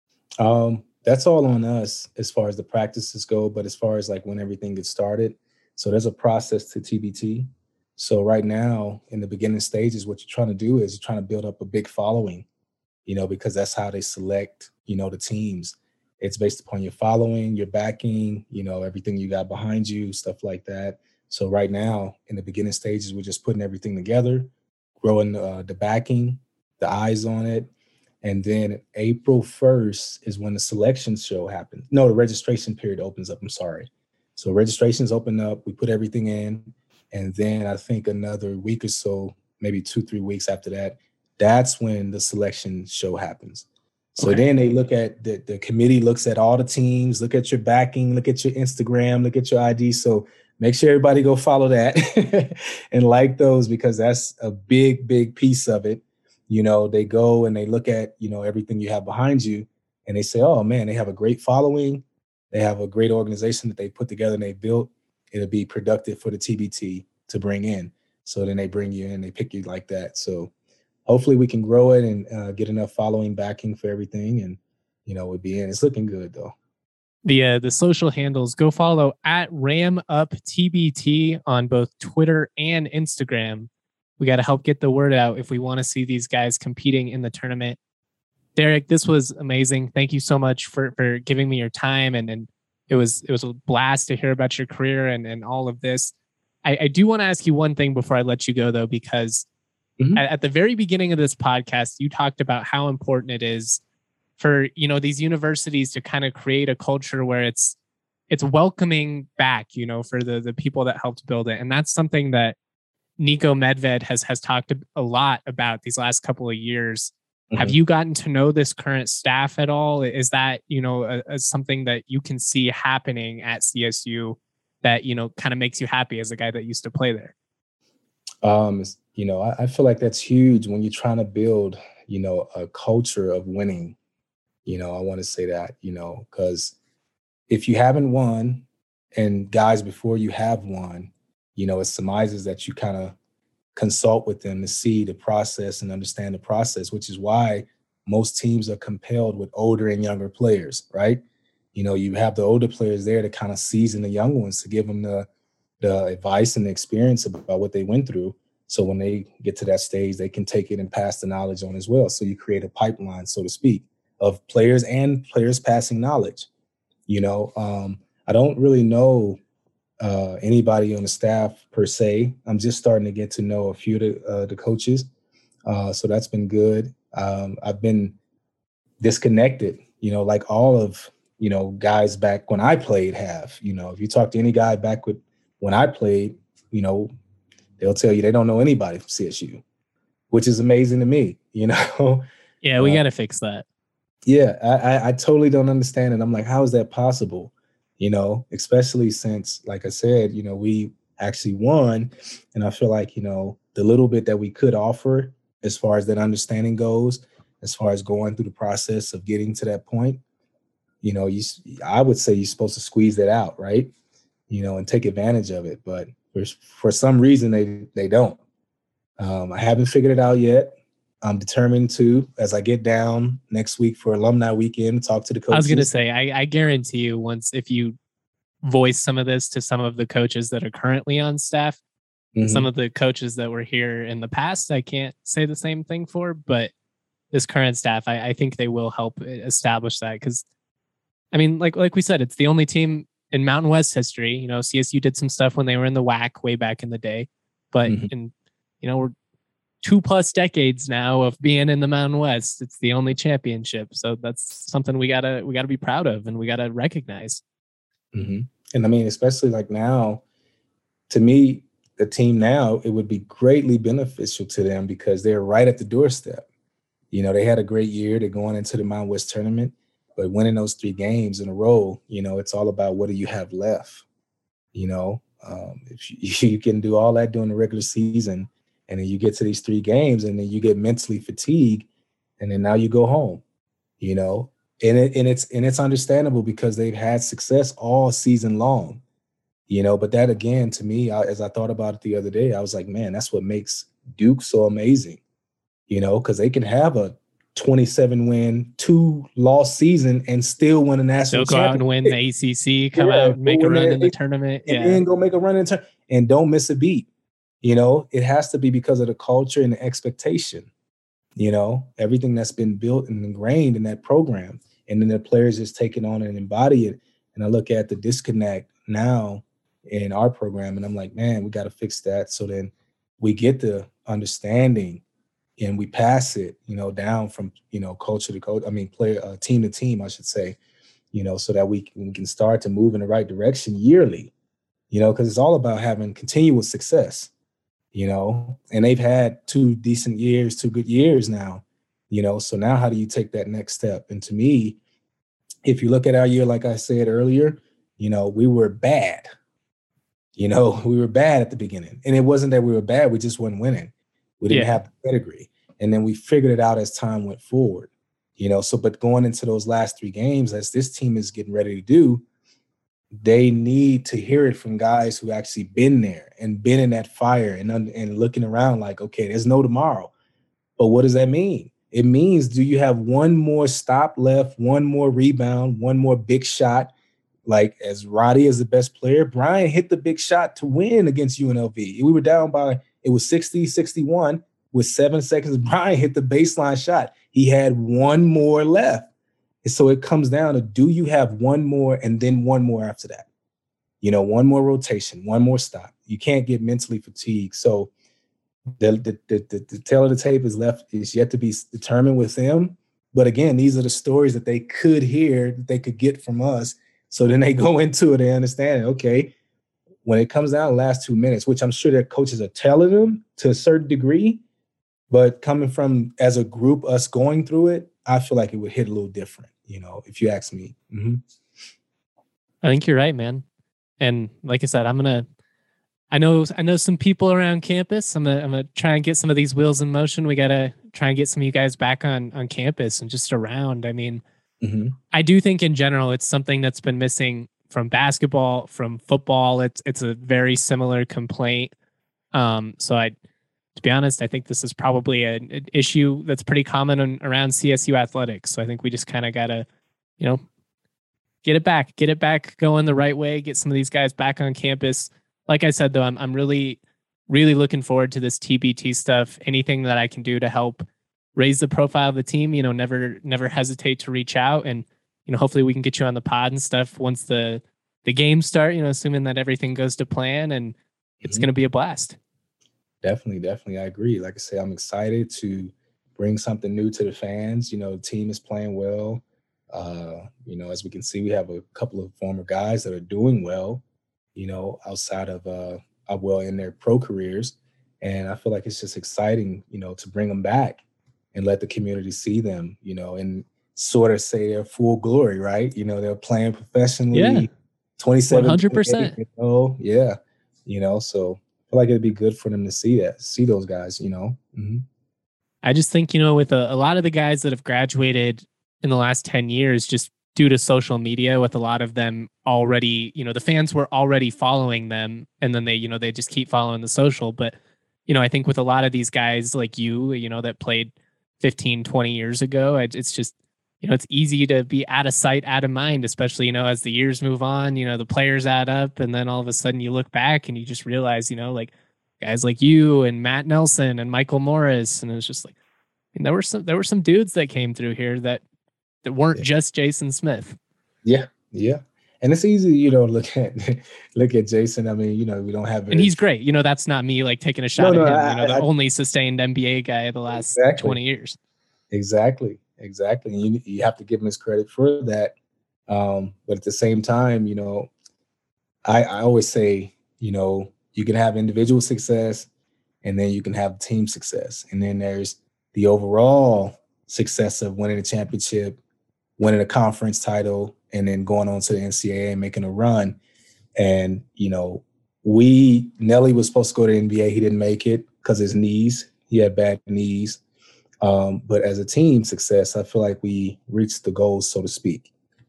That's all on us as far as the practices go, but as far as like when everything gets started, so there's a process to TBT. So right now in the beginning stages, what you're trying to do is you're trying to build up a big following, because that's how they select, the teams. It's based upon your following, your backing, everything you got behind you, stuff like that. So right now, in the beginning stages, we're just putting everything together, growing the backing, the eyes on it. And then April 1st is when the selection show happens. No, the registration period opens up. I'm sorry. So registrations open up. We put everything in. And then I think another week or so, maybe 2-3 weeks after that, that's when the selection show happens. So then they look at the committee looks at all the teams, look at your backing, look at your Instagram, look at your ID. So make sure everybody go follow that and like those, because that's a big, big piece of it. They go and they look at, everything you have behind you, and they say, oh man, they have a great following. They have a great organization that they put together and they built. It'll be productive for the TBT to bring in. So then they bring you in, they pick you like that. So hopefully we can grow it and get enough following backing for everything. And, we'll be in. It's looking good though. The social handles, go follow at RamUpTBT on both Twitter and Instagram. We got to help get the word out if we want to see these guys competing in the tournament. Derek, this was amazing. Thank you so much for giving me your time. And it was a blast to hear about your career and all of this. I do want to ask you one thing before I let you go, though, because at the very beginning of this podcast, you talked about how important it is for, these universities to kind of create a culture where it's welcoming back, for the people that helped build it. And that's something that Niko Medved has talked a lot about these last couple of years. Have you gotten to know this current staff at all? Is that, something that you can see happening at CSU that, kind of makes you happy as a guy that used to play there? I feel like that's huge when you're trying to build, a culture of winning. I want to say that, because if you haven't won and guys before you have won, it surmises that you kind of consult with them to see the process and understand the process, which is why most teams are compelled with older and younger players, right? You have the older players there to kind of season the young ones, to give them the advice and the experience about what they went through. So when they get to that stage, they can take it and pass the knowledge on as well. So you create a pipeline, so to speak, of players and players passing knowledge. I don't really know anybody on the staff per se. I'm just starting to get to know a few of the coaches. So that's been good. I've been disconnected, like all of, guys back when I played have. If you talk to any guy back when I played, they'll tell you they don't know anybody from CSU, which is amazing to me, Yeah, we got to fix that. Yeah, I totally don't understand it. I'm like, how is that possible? Especially since, like I said, we actually won. And I feel like, the little bit that we could offer as far as that understanding goes, as far as going through the process of getting to that point, I would say you're supposed to squeeze that out, right? and take advantage of it. But for some reason, they don't. I haven't figured it out yet. I'm determined to, as I get down next week for alumni weekend, talk to the coaches. I was going to say, I guarantee you, if you voice some of this to some of the coaches that are currently on staff, some of the coaches that were here in the past, I can't say the same thing for, but this current staff, I think they will help establish that. Because, I mean, like we said, it's the only team in Mountain West history. CSU did some stuff when they were in the WAC way back in the day, but we're 2+ decades now of being in the Mountain West. It's the only championship, so that's something we gotta be proud of, and we gotta recognize. And I mean, especially like now, to me, the team now, it would be greatly beneficial to them because they're right at the doorstep. They had a great year. They're going into the Mountain West tournament, but winning those 3 games in a row, it's all about what do you have left. If you can do all that during the regular season, and then you get to these 3 games, and then you get mentally fatigued, and then now you go home. And it's understandable because they've had success all season long. But that, again, to me, as I thought about it the other day, I was like, man, that's what makes Duke so amazing. Because they can have a 27-win, 2-loss season and still win a national championship. They'll go out and win the ACC, come out and make a run in the tournament. And then go make a run in the tournament and don't miss a beat. It has to be because of the culture and the expectation, everything that's been built and ingrained in that program. And then the players just take it on and embody it. And I look at the disconnect now in our program, and I'm like, man, we got to fix that. So then we get the understanding and we pass it, down from, culture to coach. I mean, player, team to team, I should say, so that we can start to move in the right direction yearly, because it's all about having continuous success, and they've had 2 decent years, 2 good years now, so now how do you take that next step? And to me, if you look at our year, like I said earlier, we were bad. We were bad at the beginning, and it wasn't that we were bad. We just weren't winning. We didn't have the pedigree. And then we figured it out as time went forward, but going into those last 3 games, as this team is getting ready to do, they need to hear it from guys who actually been there and been in that fire and looking around like, okay, there's no tomorrow. But what does that mean? It means, do you have one more stop left, one more rebound, one more big shot? Like, as Roddy is the best player, Brian hit the big shot to win against UNLV. We were down by, it was 60-61 with 7 seconds. Brian hit the baseline shot. He had one more left. And so it comes down to, do you have one more and then one more after that? One more rotation, one more stop. You can't get mentally fatigued. So the tail of the tape is yet to be determined with them. But again, these are the stories that they could hear, that they could get from us. So then they go into it and understand, okay, when it comes down to the last 2 minutes, which I'm sure their coaches are telling them to a certain degree, but coming from, as a group, us going through it, I feel like it would hit a little different, if you ask me. I think you're right, man. And like I said, I know some people around campus. I'm gonna try and get some of these wheels in motion. We gotta try and get some of you guys back on campus and just around. I mean, I do think in general it's something that's been missing from basketball, from football. It's a very similar complaint. To be honest, I think this is probably an issue that's pretty common around CSU athletics. So I think we just kind of gotta, get it back going the right way. Get some of these guys back on campus. Like I said, though, I'm really, really looking forward to this TBT stuff. Anything that I can do to help raise the profile of the team, never hesitate to reach out. And, hopefully we can get you on the pod and stuff once the games start, assuming that everything goes to plan, and it's going to be a blast. Definitely. I agree. Like I say, I'm excited to bring something new to the fans. The team is playing well. As we can see, we have a couple of former guys that are doing well, outside of, in their pro careers. And I feel like it's just exciting, to bring them back and let the community see them, and sort of say their full glory, right? They're playing professionally, 27, 100%. So I feel like it'd be good for them to see those guys, I just think, with a lot of the guys that have graduated in the last 10 years, just due to social media, with a lot of them already, the fans were already following them, and then they just keep following the social. But, I think with a lot of these guys like that played 15, 20 years ago, it's just, it's easy to be out of sight, out of mind, especially, as the years move on, the players add up, and then all of a sudden you look back and you just realize, like guys like you and Matt Nelson and Michael Morris. And it was just like, there were some dudes that came through here that weren't just Jason Smith. Yeah. Yeah. And it's easy, look at Jason. I mean, we don't have, and he's great. That's not me like taking a shot at him. The only sustained NBA guy of the last 20 years. Exactly. And you have to give him his credit for that. But at the same time, I always say, you can have individual success, and then you can have team success. And then there's the overall success of winning a championship, winning a conference title, and then going on to the NCAA and making a run. And, Nelly was supposed to go to the NBA. He didn't make it because his knees. He had bad knees. But as a team success, I feel like we reached the goals, so to speak,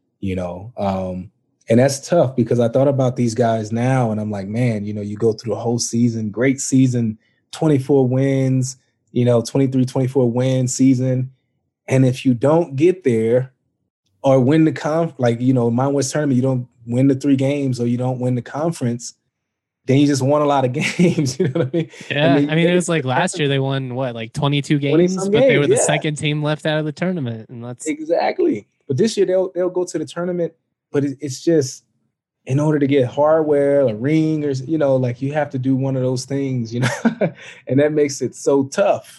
and that's tough because I thought about these guys now and I'm like, man, you go through the whole season, great season, 24 wins, 23, 24 win season. And if you don't get there or win the Mountain West tournament, you don't win the 3 games or you don't win the conference, then you just won a lot of games. You know what I mean? Yeah. I mean, it was like last year they won 22 games, but they were the second team left out of the tournament. And that's exactly. But this year they'll go to the tournament, but it's just in order to get hardware, a ring, or, you have to do one of those things, and that makes it so tough,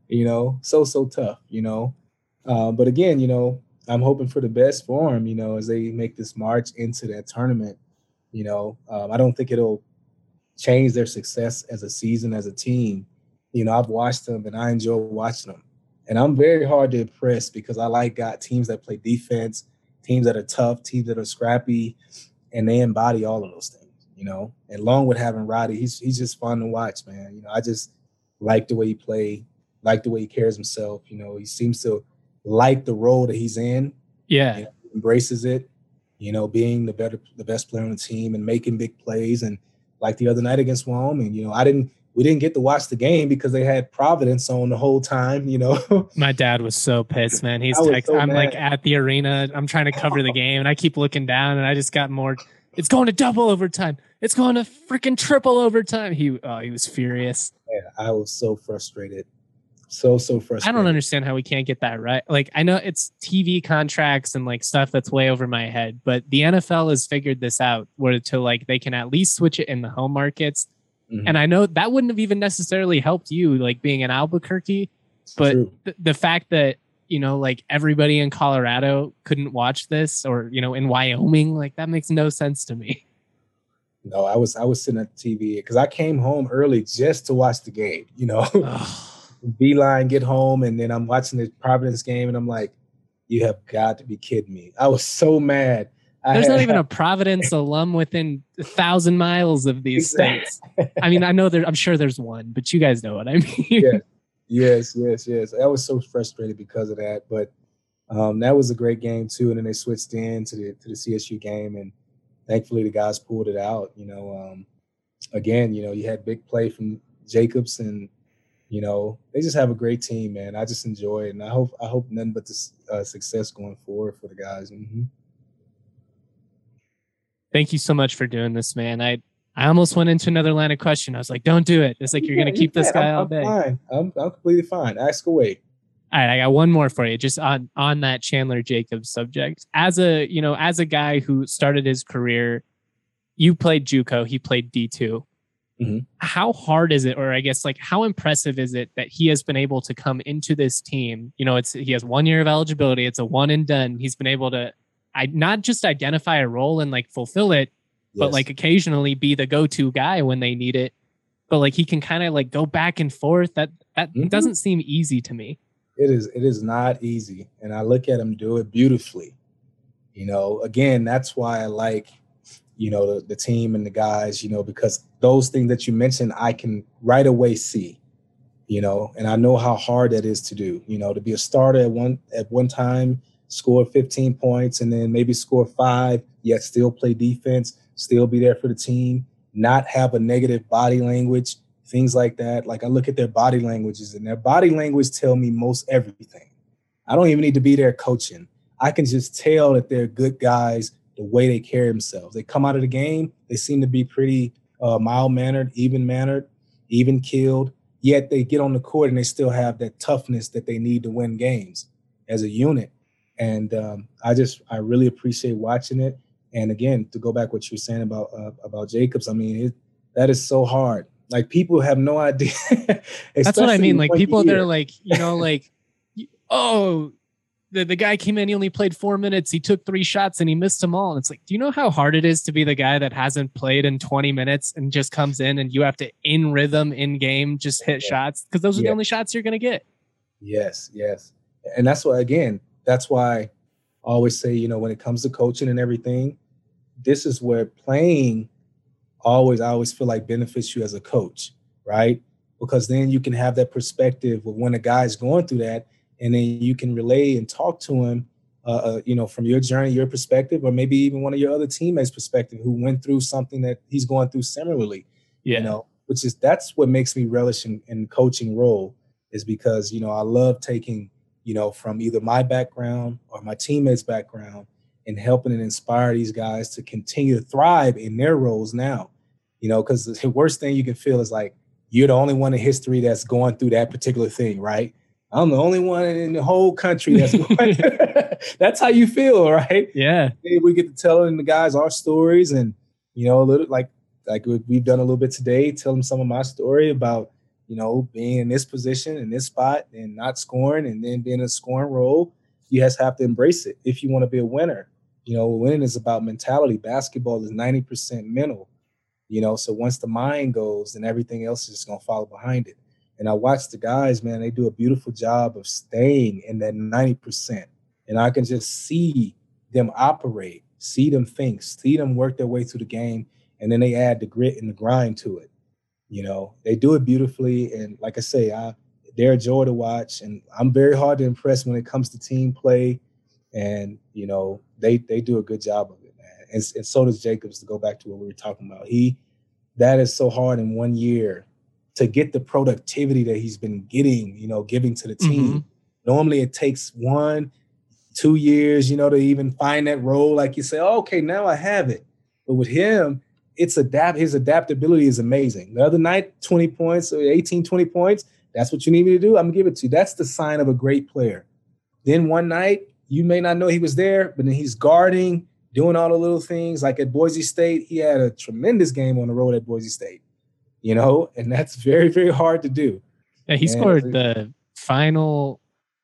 so tough, but again, I'm hoping for the best for them, as they make this march into that tournament. I don't think it'll change their success as a season, as a team. I've watched them and I enjoy watching them. And I'm very hard to impress because I got teams that play defense, teams that are tough, teams that are scrappy, and they embody all of those things, And along with having Roddy, he's just fun to watch, man. I just like the way he played, like the way he carries himself. He seems to like the role that he's in. Yeah. Embraces it, being the best player on the team and making big plays. And like the other night against Wyoming, we didn't get to watch the game because they had Providence on the whole time, My dad was so pissed, man. I'm like at the arena. I'm trying to cover the game and I keep looking down and I just got more. It's going to double overtime. It's going to freaking triple overtime. He was furious. Yeah, I was so frustrated. So frustrated. I don't understand how we can't get that right. Like, I know it's TV contracts and like stuff that's way over my head, but the NFL has figured this out where they can at least switch it in the home markets. Mm-hmm. And I know that wouldn't have even necessarily helped you, like being in Albuquerque, but the fact that, everybody in Colorado couldn't watch this or, in Wyoming, like that makes no sense to me. No, I was sitting at the TV because I came home early just to watch the game, Beeline, get home, and then I'm watching the Providence game, and I'm like, you have got to be kidding me. I was so mad. There's not even a Providence alum within 1,000 miles of these states. I mean, I'm sure there's one, but you guys know what I mean. Yeah. Yes. I was so frustrated because of that, but that was a great game too. And then they switched in to the CSU game, and thankfully the guys pulled it out. Again, you had big play from Jacobs, and they just have a great team, man. I just enjoy it, and I hope nothing but this success going forward for the guys. Mm-hmm. Thank you so much for doing this, man. I almost went into another line of question. I was like, don't do it. It's like, you're going to keep this guy all day. Fine. I'm completely fine. Ask away. All right. I got one more for you, just on that Chandler Jacobs subject. As a guy who started his career, you played JUCO, he played D2. Mm-hmm. How hard is it, or I guess like how impressive is it that he has been able to come into this team? He has 1 year of eligibility. It's a one and done. He's been able to not just identify a role and like fulfill it, but like occasionally be the go-to guy when they need it. But like he can kind of like go back and forth. That mm-hmm. doesn't seem easy to me. It is not easy. And I look at him do it beautifully. Again, that's why I like, the team and the guys, because those things that you mentioned, I can right away see, and I know how hard that is to do, to be a starter at one time, score 15 points and then maybe score 5, yet still play defense, still be there for the team, not have a negative body language, things like that. Like I look at their body languages, and their body language tell me most everything. I don't even need to be there coaching. I can just tell that they're good guys the way they carry themselves. They come out of the game, they seem to be pretty mild-mannered, even-keeled, yet they get on the court and they still have that toughness that they need to win games as a unit. And I really appreciate watching it. And again, to go back what you were saying about Jacobs, I mean, that is so hard. Like people have no idea. That's what I mean. Like people that are like, like, oh, the guy came in, he only played 4 minutes. He took 3 shots and he missed them all. And it's like, do you know how hard it is to be the guy that hasn't played in 20 minutes and just comes in and you have to, in rhythm, in game, just hit shots? Because those are the only shots you're going to get. Yes. And that's why I always say, when it comes to coaching and everything, this is where playing I always feel like benefits you as a coach, right? Because then you can have that perspective of when a guy's going through that, and then you can relay and talk to him, from your journey, your perspective, or maybe even one of your other teammates' perspective who went through something that he's going through similarly. That's what makes me relish in coaching role, is because, I love taking, from either my background or my teammates' background and helping and inspire these guys to continue to thrive in their roles now. Because the worst thing you can feel is like you're the only one in history that's going through that particular thing, right? I'm the only one in the whole country that's going through. That's how you feel, right? Yeah. We get to tell the guys our stories, and a little like we've done a little bit today, tell them some of my story about being in this position, in this spot, and not scoring, and then being in a scoring role. You just have to embrace it if you want to be a winner. Winning is about mentality. Basketball is 90% mental. So once the mind goes, then everything else is just going to follow behind it. And I watch the guys, man, they do a beautiful job of staying in that 90%. And I can just see them operate, see them think, see them work their way through the game. And then they add the grit and the grind to it. They do it beautifully. And like I say, they're a joy to watch. And I'm very hard to impress when it comes to team play. And, they do a good job of it, man. And so does Jacobs, to go back to what we were talking about. That is so hard in 1 year to get the productivity that he's been getting, giving to the team. Mm-hmm. Normally it takes 1-2 years, to even find that role. Like you say, oh, okay, now I have it. But with him, his adaptability is amazing. The other night, 20 points, 18, 20 points. That's what you need me to do. I'm going to give it to you. That's the sign of a great player. Then one night, you may not know he was there, but then he's guarding, doing all the little things. Like at Boise State, he had a tremendous game on the road at Boise State, and that's very, very hard to do. Yeah, he scored the final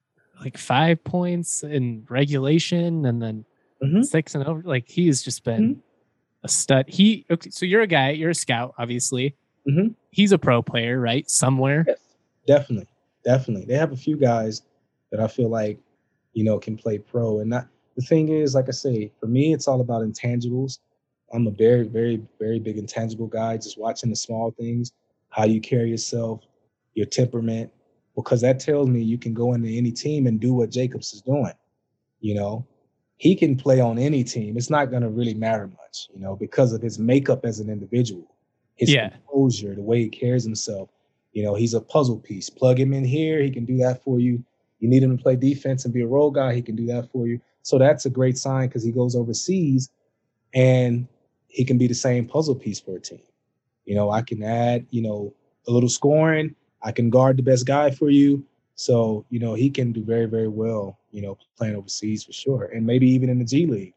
5 points in regulation and then 6 and over. Like he's just been a stud. So you're a guy, you're a scout, obviously. Mm-hmm. He's a pro player, right? Somewhere. Yes, definitely. They have a few guys that I feel like, can play pro. And the thing is, like I say, for me, it's all about intangibles. I'm a very, very, very big intangible guy, just watching the small things, how you carry yourself, your temperament, because that tells me you can go into any team and do what Jacobs is doing. He can play on any team. It's not going to really matter much, because of his makeup as an individual, his composure, the way he carries himself. He's a puzzle piece. Plug him in here, he can do that for you. You need him to play defense and be a role guy, he can do that for you. So that's a great sign, because he goes overseas and he can be the same puzzle piece for a team. I can add, a little scoring. I can guard the best guy for you. So, he can do very, very well, playing overseas for sure. And maybe even in the G League,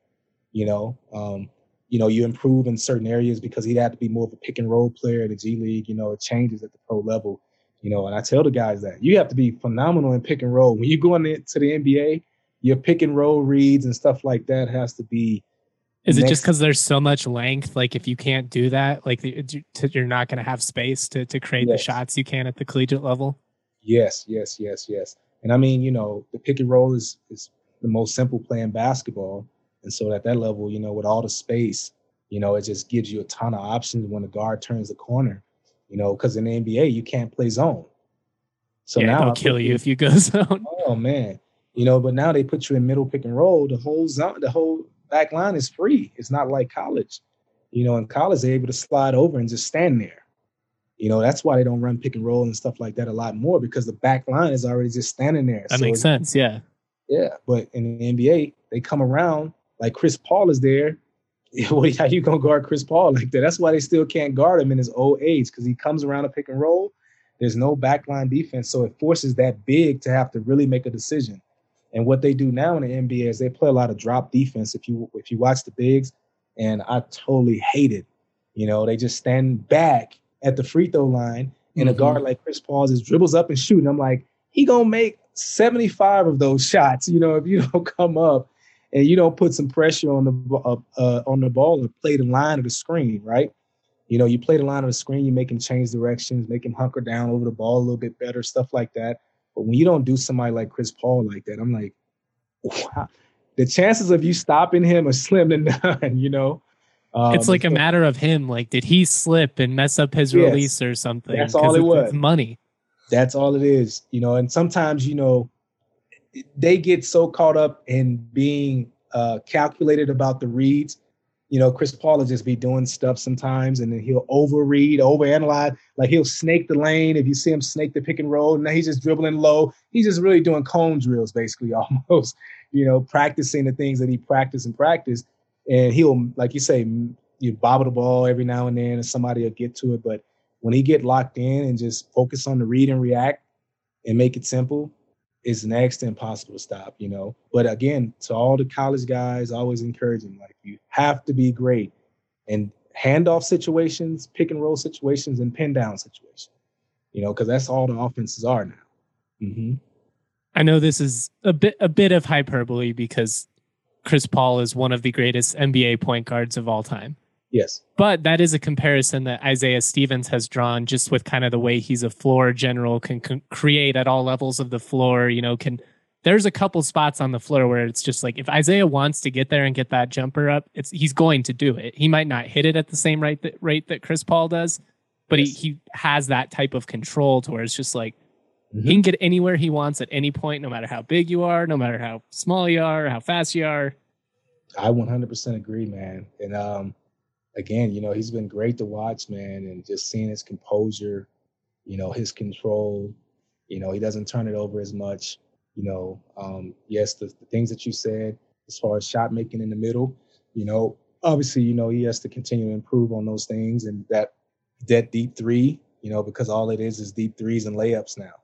you improve in certain areas because he'd have to be more of a pick and roll player in the G League. It changes at the pro level, and I tell the guys that you have to be phenomenal in pick and roll. When you go into the NBA, your pick and roll reads and stuff like that has to be. Is it just because there's so much length? Like if you can't do that, like you're not going to have space to create the shots you can at the collegiate level? Yes. And I mean, the pick and roll is the most simple play in basketball. And so at that level, with all the space, it just gives you a ton of options when the guard turns the corner, because in the NBA, you can't play zone. So now they'll kill you if you go zone. Oh, man. But now they put you in middle pick and roll. The whole zone, the whole back line is free. It's not like college. In college, they're able to slide over and just stand there. That's why they don't run pick and roll and stuff like that a lot more, because the back line is already just standing there. That makes sense, yeah. Yeah, but in the NBA, they come around like Chris Paul is there. How you going to guard Chris Paul like that? That's why they still can't guard him in his old age, because he comes around a pick and roll. There's no backline defense, so it forces that big to have to really make a decision. And what they do now in the NBA is they play a lot of drop defense. If you watch the bigs, and I totally hate it. They just stand back at the free throw line, and a guard like Chris Paul just dribbles up and shoot. And I'm like, he gonna make 75 of those shots. If you don't come up and you don't put some pressure on the ball or play the line of the screen, right? You play the line of the screen, you make him change directions, make him hunker down over the ball a little bit better, stuff like that. But when you don't do somebody like Chris Paul like that, I'm like, wow. The chances of you stopping him are slim to none, It's like a matter of him. Like, did he slip and mess up his release or something? That's all it was. It's money. That's all it is, and sometimes, they get so caught up in being calculated about the reads. Chris Paul will just be doing stuff sometimes, and then he'll overread, overanalyze. Like, he'll snake the lane. If you see him snake the pick and roll, now he's just dribbling low. He's just really doing cone drills, basically, almost, practicing the things that he practiced. And he'll, like you say, you bobble the ball every now and then, and somebody will get to it. But when he get locked in and just focus on the read and react and make it simple, it's next to impossible to stop, But again, to all the college guys, always encouraging, like, you have to be great in handoff situations, pick and roll situations, and pin down situations, because that's all the offenses are now. Mm-hmm. I know this is a bit of hyperbole, because Chris Paul is one of the greatest NBA point guards of all time. Yes. But that is a comparison that Isaiah Stevens has drawn, just with kind of the way he's a floor general, can create at all levels of the floor. There's a couple spots on the floor where it's just like, if Isaiah wants to get there and get that jumper up, he's going to do it. He might not hit it at the same rate that Chris Paul does, but he has that type of control to where it's just like, he can get anywhere he wants at any point, no matter how big you are, no matter how small you are, or how fast you are. I 100% agree, man. And again, he's been great to watch, man, and just seeing his composure, his control, he doesn't turn it over as much, yes, the things that you said as far as shot making in the middle, obviously, he has to continue to improve on those things, and that deep three, because all it is deep threes and layups now.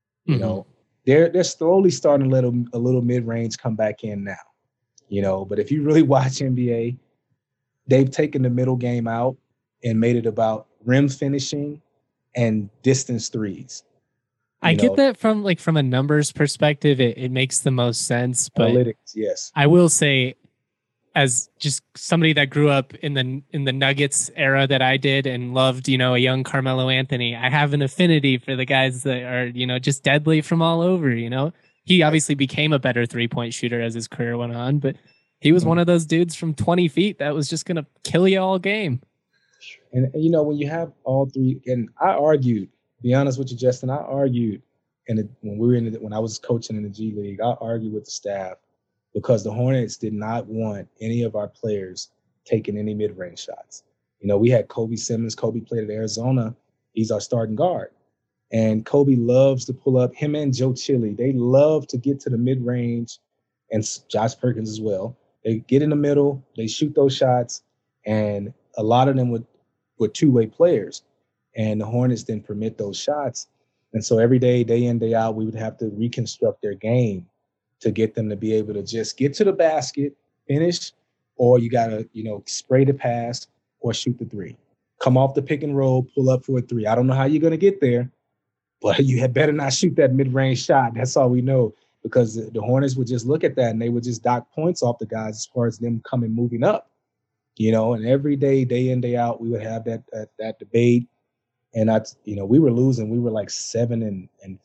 They're slowly starting to let a little mid-range come back in now, but if you really watch NBA, they've taken the middle game out and made it about rim finishing and distance threes. I get that from a numbers perspective, it makes the most sense. But analytics, yes. I will say, as just somebody that grew up in the Nuggets era that I did and loved, a young Carmelo Anthony, I have an affinity for the guys that are, just deadly from all over. He obviously became a better 3-point shooter as his career went on, but he was one of those dudes from 20 feet that was just going to kill you all game. And, when you have all three, and I argued, to be honest with you, Justin, I argued, when I was coaching in the G League, I argued with the staff because the Hornets did not want any of our players taking any mid-range shots. We had Kobe Simmons. Kobe played at Arizona. He's our starting guard. And Kobe loves to pull up, him and Joe Chile. They love to get to the mid-range, and Josh Perkins as well. They get in the middle, they shoot those shots, and a lot of them were two-way players. And the Hornets didn't permit those shots. And so every day in, day out, we would have to reconstruct their game to get them to be able to just get to the basket, finish, or you got to, spray the pass or shoot the three. Come off the pick and roll, pull up for a three. I don't know how you're going to get there, but you had better not shoot that mid-range shot. That's all we know, because the Hornets would just look at that and they would just dock points off the guys as far as them moving up, and every day in, day out, we would have that debate. And we were losing. We were like 7-45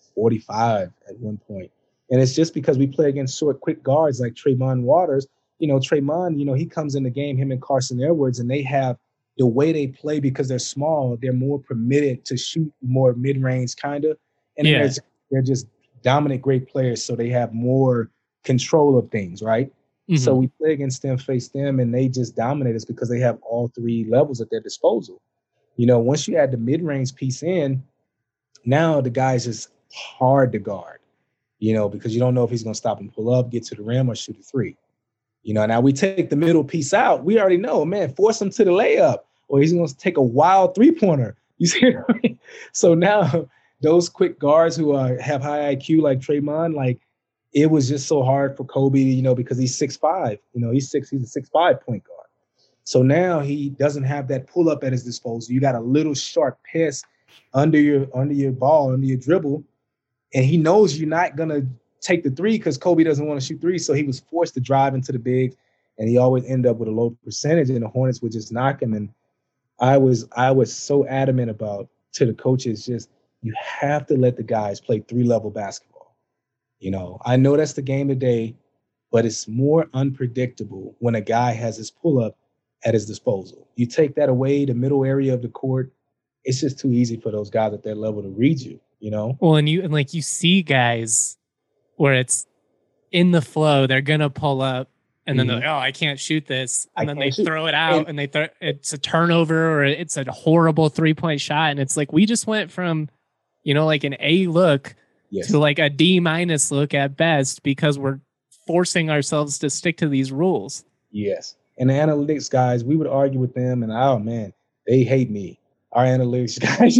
at one point. And it's just because we play against short, quick guards like Tremont Waters. Tremont, he comes in the game, him and Carson Edwards, and they have the way they play because they're small. They're more permitted to shoot more mid-range kind of. And they're just dominant, great players. So they have more control of things, right? Mm-hmm. So we play against them, face them, and they just dominate us because they have all three levels at their disposal. Once you add the mid-range piece in, now the guy's just hard to guard, because you don't know if he's going to stop and pull up, get to the rim, or shoot a three. Now we take the middle piece out. We already know, man, force him to the layup, or he's going to take a wild three-pointer. You see what I mean? So now those quick guards who have high IQ like Draymond, like, it was just so hard for Kobe, because he's 6'5". He's a 6'5" point guard. So now he doesn't have that pull up at his disposal. You got a little short pass under your ball, under your dribble, and he knows you're not gonna take the three because Kobe doesn't want to shoot three. So he was forced to drive into the big, and he always end up with a low percentage, and the Hornets would just knock him. And I was so adamant about to the coaches, just you have to let the guys play 3-level basketball. I know that's the game today, but it's more unpredictable when a guy has his pull-up at his disposal. You take that away, the middle area of the court, it's just too easy for those guys at their level to read you, Well, and you see guys where it's in the flow, they're going to pull up, and then they're like, oh, I can't shoot this. And then they throw it out, and it's a turnover, or it's a horrible 3-point shot. And it's like, we just went from, like an A look to like a D- look at best because we're forcing ourselves to stick to these rules. Yes. And the analytics guys, we would argue with them, and oh man, they hate me. Our analytics guys,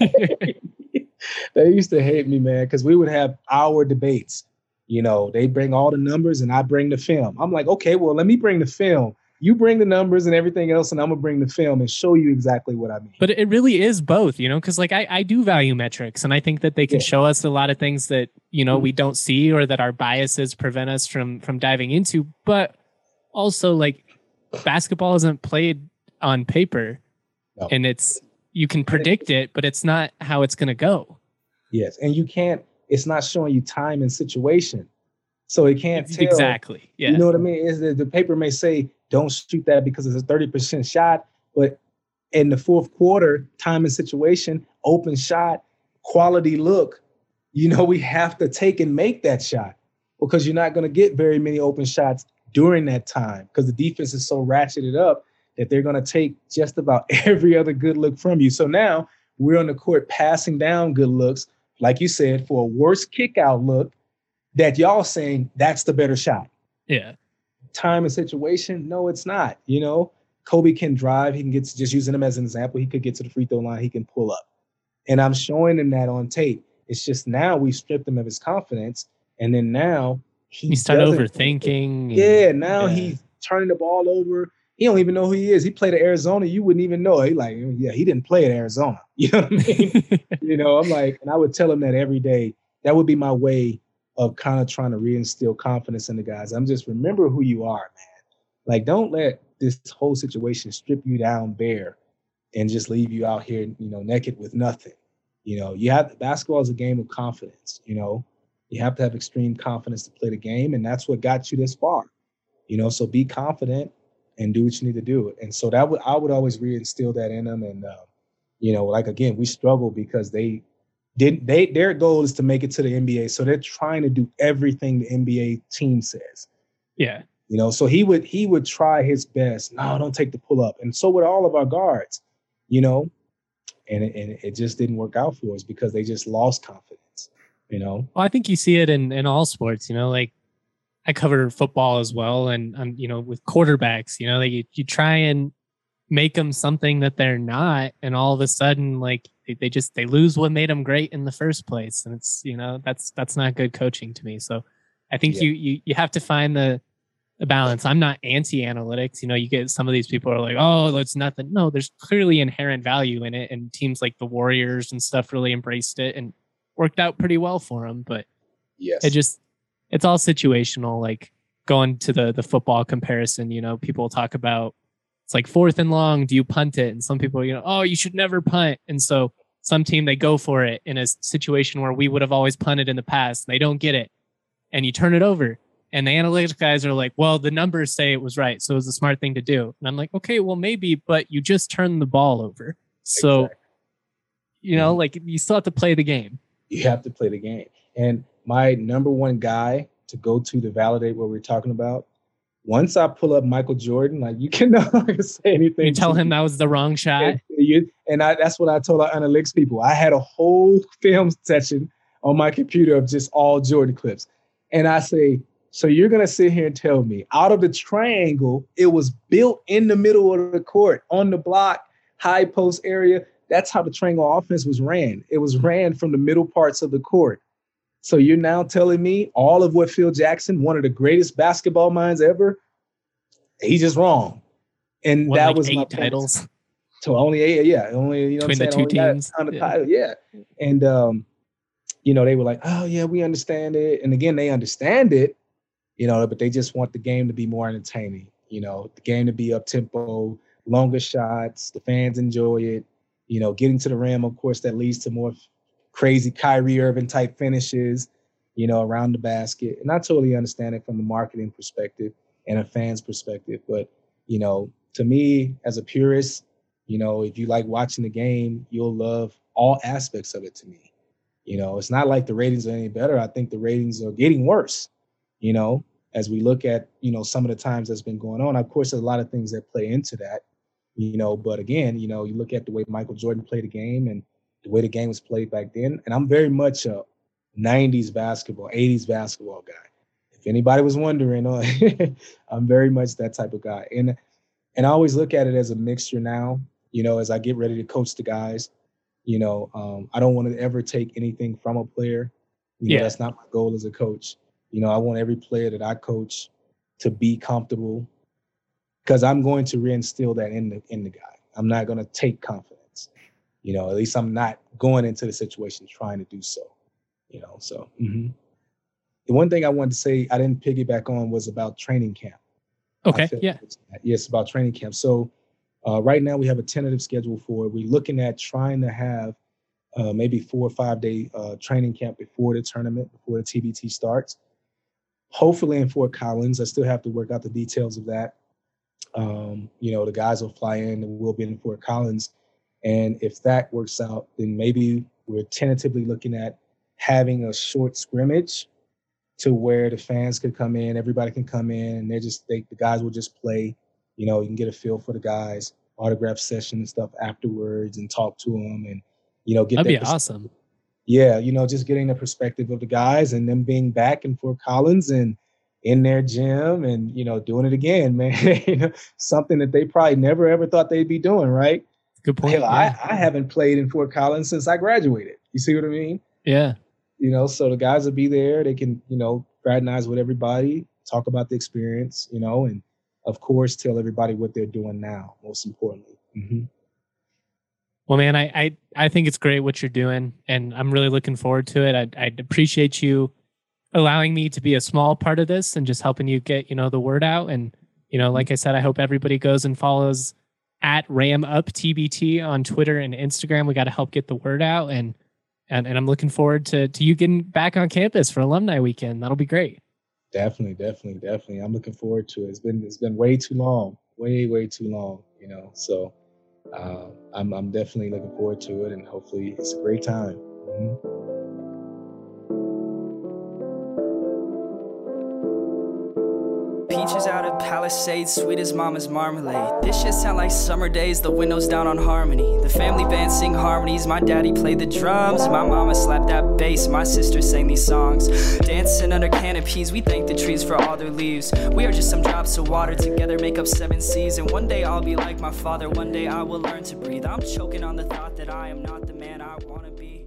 they used to hate me, man, because we would have our debates. They bring all the numbers and I bring the film. I'm like, okay, well, let me bring the film. You bring the numbers and everything else, and I'm going to bring the film and show you exactly what I mean. But it really is both, because like I do value metrics, and I think that they can show us a lot of things that, we don't see or that our biases prevent us from diving into. But also, like, basketball isn't played on paper, and you can predict it, but it's not how it's going to go. Yes, and it's not showing you time and situation. So it can't tell. Exactly. Yeah. You know what I mean? Is that the paper may say, don't shoot that because it's a 30% shot. But in the fourth quarter, time and situation, open shot, quality look, we have to take and make that shot because you're not going to get very many open shots during that time because the defense is so ratcheted up that they're going to take just about every other good look from you. So now we're on the court passing down good looks, like you said, for a worse kick out look that y'all saying that's the better shot. Yeah. Time and situation, no, it's not. Kobe can drive. He can get to, just using him as an example, he could get to the free throw line. He can pull up. And I'm showing him that on tape. It's just now we stripped him of his confidence. And then now he started overthinking. He's turning the ball over. He don't even know who he is. He played at Arizona. You wouldn't even know. He like, yeah, he didn't play at Arizona. You know what I mean? I'm like, and I would tell him that every day. That would be my way of kind of trying to reinstill confidence in the guys. I'm just remember who you are, man. Like, don't let this whole situation strip you down bare and just leave you out here, naked with nothing. Basketball is a game of confidence. You have to have extreme confidence to play the game, and that's what got you this far. So be confident and do what you need to do. And so I would always reinstill that in them. And like again, we struggle because their goal is to make it to the NBA. So they're trying to do everything the NBA team says. Yeah. So he would try his best. No, don't take the pull up. And so would all of our guards, and it just didn't work out for us because they just lost confidence, Well, I think you see it in all sports, like I cover football as well. And, with quarterbacks, you try and make them something that they're not. And all of a sudden, like they lose what made them great in the first place. And it's, that's not good coaching to me. So I think you have to find the balance. I'm not anti-analytics. You get some of these people are like, oh, that's nothing. No, there's clearly inherent value in it. And teams like the Warriors and stuff really embraced it and worked out pretty well for them. But it's all situational. Like going to the football comparison, people talk about it's like 4th and long. Do you punt it? And some people, oh, you should never punt. And so some team, they go for it in a situation where we would have always punted in the past. They don't get it. And you turn it over. And the analytics guys are like, well, the numbers say it was right. So it was a smart thing to do. And I'm like, okay, well, maybe, but you just turned the ball over. So, like you still have to play the game. You have to play the game. And my number one guy to go to validate what we're talking about. Once I pull up Michael Jordan, like you cannot say anything. You tell him that was the wrong shot. That's what I told our analytics people. I had a whole film session on my computer of just all Jordan clips. And I say, so you're going to sit here and tell me out of the triangle, it was built in the middle of the court, on the block, high post area. That's how the triangle offense was ran. It was ran from the middle parts of the court. So you're now telling me all of what Phil Jackson, one of the greatest basketball minds ever, he's just wrong. And what, that like was 8 my titles. So only 8, yeah. Only, between the two teams. On the title, yeah. And, they were like, oh, yeah, we understand it. And again, they understand it. But they just want the game to be more entertaining, the game to be up tempo, longer shots, the fans enjoy it, getting to the rim, of course, that leads to more crazy Kyrie Irving type finishes, around the basket. And I totally understand it from a marketing perspective and a fan's perspective. But, to me, as a purist, if you like watching the game, you'll love all aspects of it to me. It's not like the ratings are any better. I think the ratings are getting worse. As we look at, some of the times that's been going on. Of course, there's a lot of things that play into that, but again, you look at the way Michael Jordan played the game and the way the game was played back then. And I'm very much a 90s basketball, 80s basketball guy. If anybody was wondering, I'm very much that type of guy. And I always look at it as a mixture now, as I get ready to coach the guys, I don't want to ever take anything from a player. That's not my goal as a coach. I want every player that I coach to be comfortable because I'm going to reinstill that in the guy. I'm not going to take confidence. At least I'm not going into the situation trying to do so. So the one thing I wanted to say I didn't piggyback on was about training camp. Okay, yeah. Yes, about training camp. So right now we have a tentative schedule for it. We're looking at trying to have maybe 4 or 5 day training camp before the tournament, before the TBT starts. Hopefully in Fort Collins. I still have to work out the details of that. The guys will fly in and we'll be in Fort Collins. And if that works out, then maybe we're tentatively looking at having a short scrimmage to where the fans could come in, everybody can come in, and the guys will just play. You can get a feel for the guys, autograph session and stuff afterwards and talk to them and, get that'd be awesome. Yeah, just getting the perspective of the guys and them being back in Fort Collins and in their gym and, doing it again, man. Something that they probably never, ever thought they'd be doing, right? Good point. Hell, I haven't played in Fort Collins since I graduated. You see what I mean? Yeah. So the guys will be there. They can, fraternize with everybody, talk about the experience, and, of course, tell everybody what they're doing now, most importantly. Mm-hmm. Well, man, I think it's great what you're doing, and I'm really looking forward to it. I'd appreciate you allowing me to be a small part of this and just helping you get, the word out. And, like I said, I hope everybody goes and follows at RamUpTBT on Twitter and Instagram. We got to help get the word out. And I'm looking forward to you getting back on campus for alumni weekend. That'll be great. Definitely. I'm looking forward to it. It's been way too long, way too long, so I'm definitely looking forward to it, and hopefully it's a great time. Mm-hmm. Peaches out of Palisades, sweet as mama's marmalade. This shit sound like summer days, the windows down on Harmony. The family band sing harmonies, my daddy played the drums. My mama slapped that bass, my sister sang these songs. Dancing under canopies, we thank the trees for all their leaves. We are just some drops of water, together make up 7 seas. And one day I'll be like my father, one day I will learn to breathe. I'm choking on the thought that I am not the man I wanna be.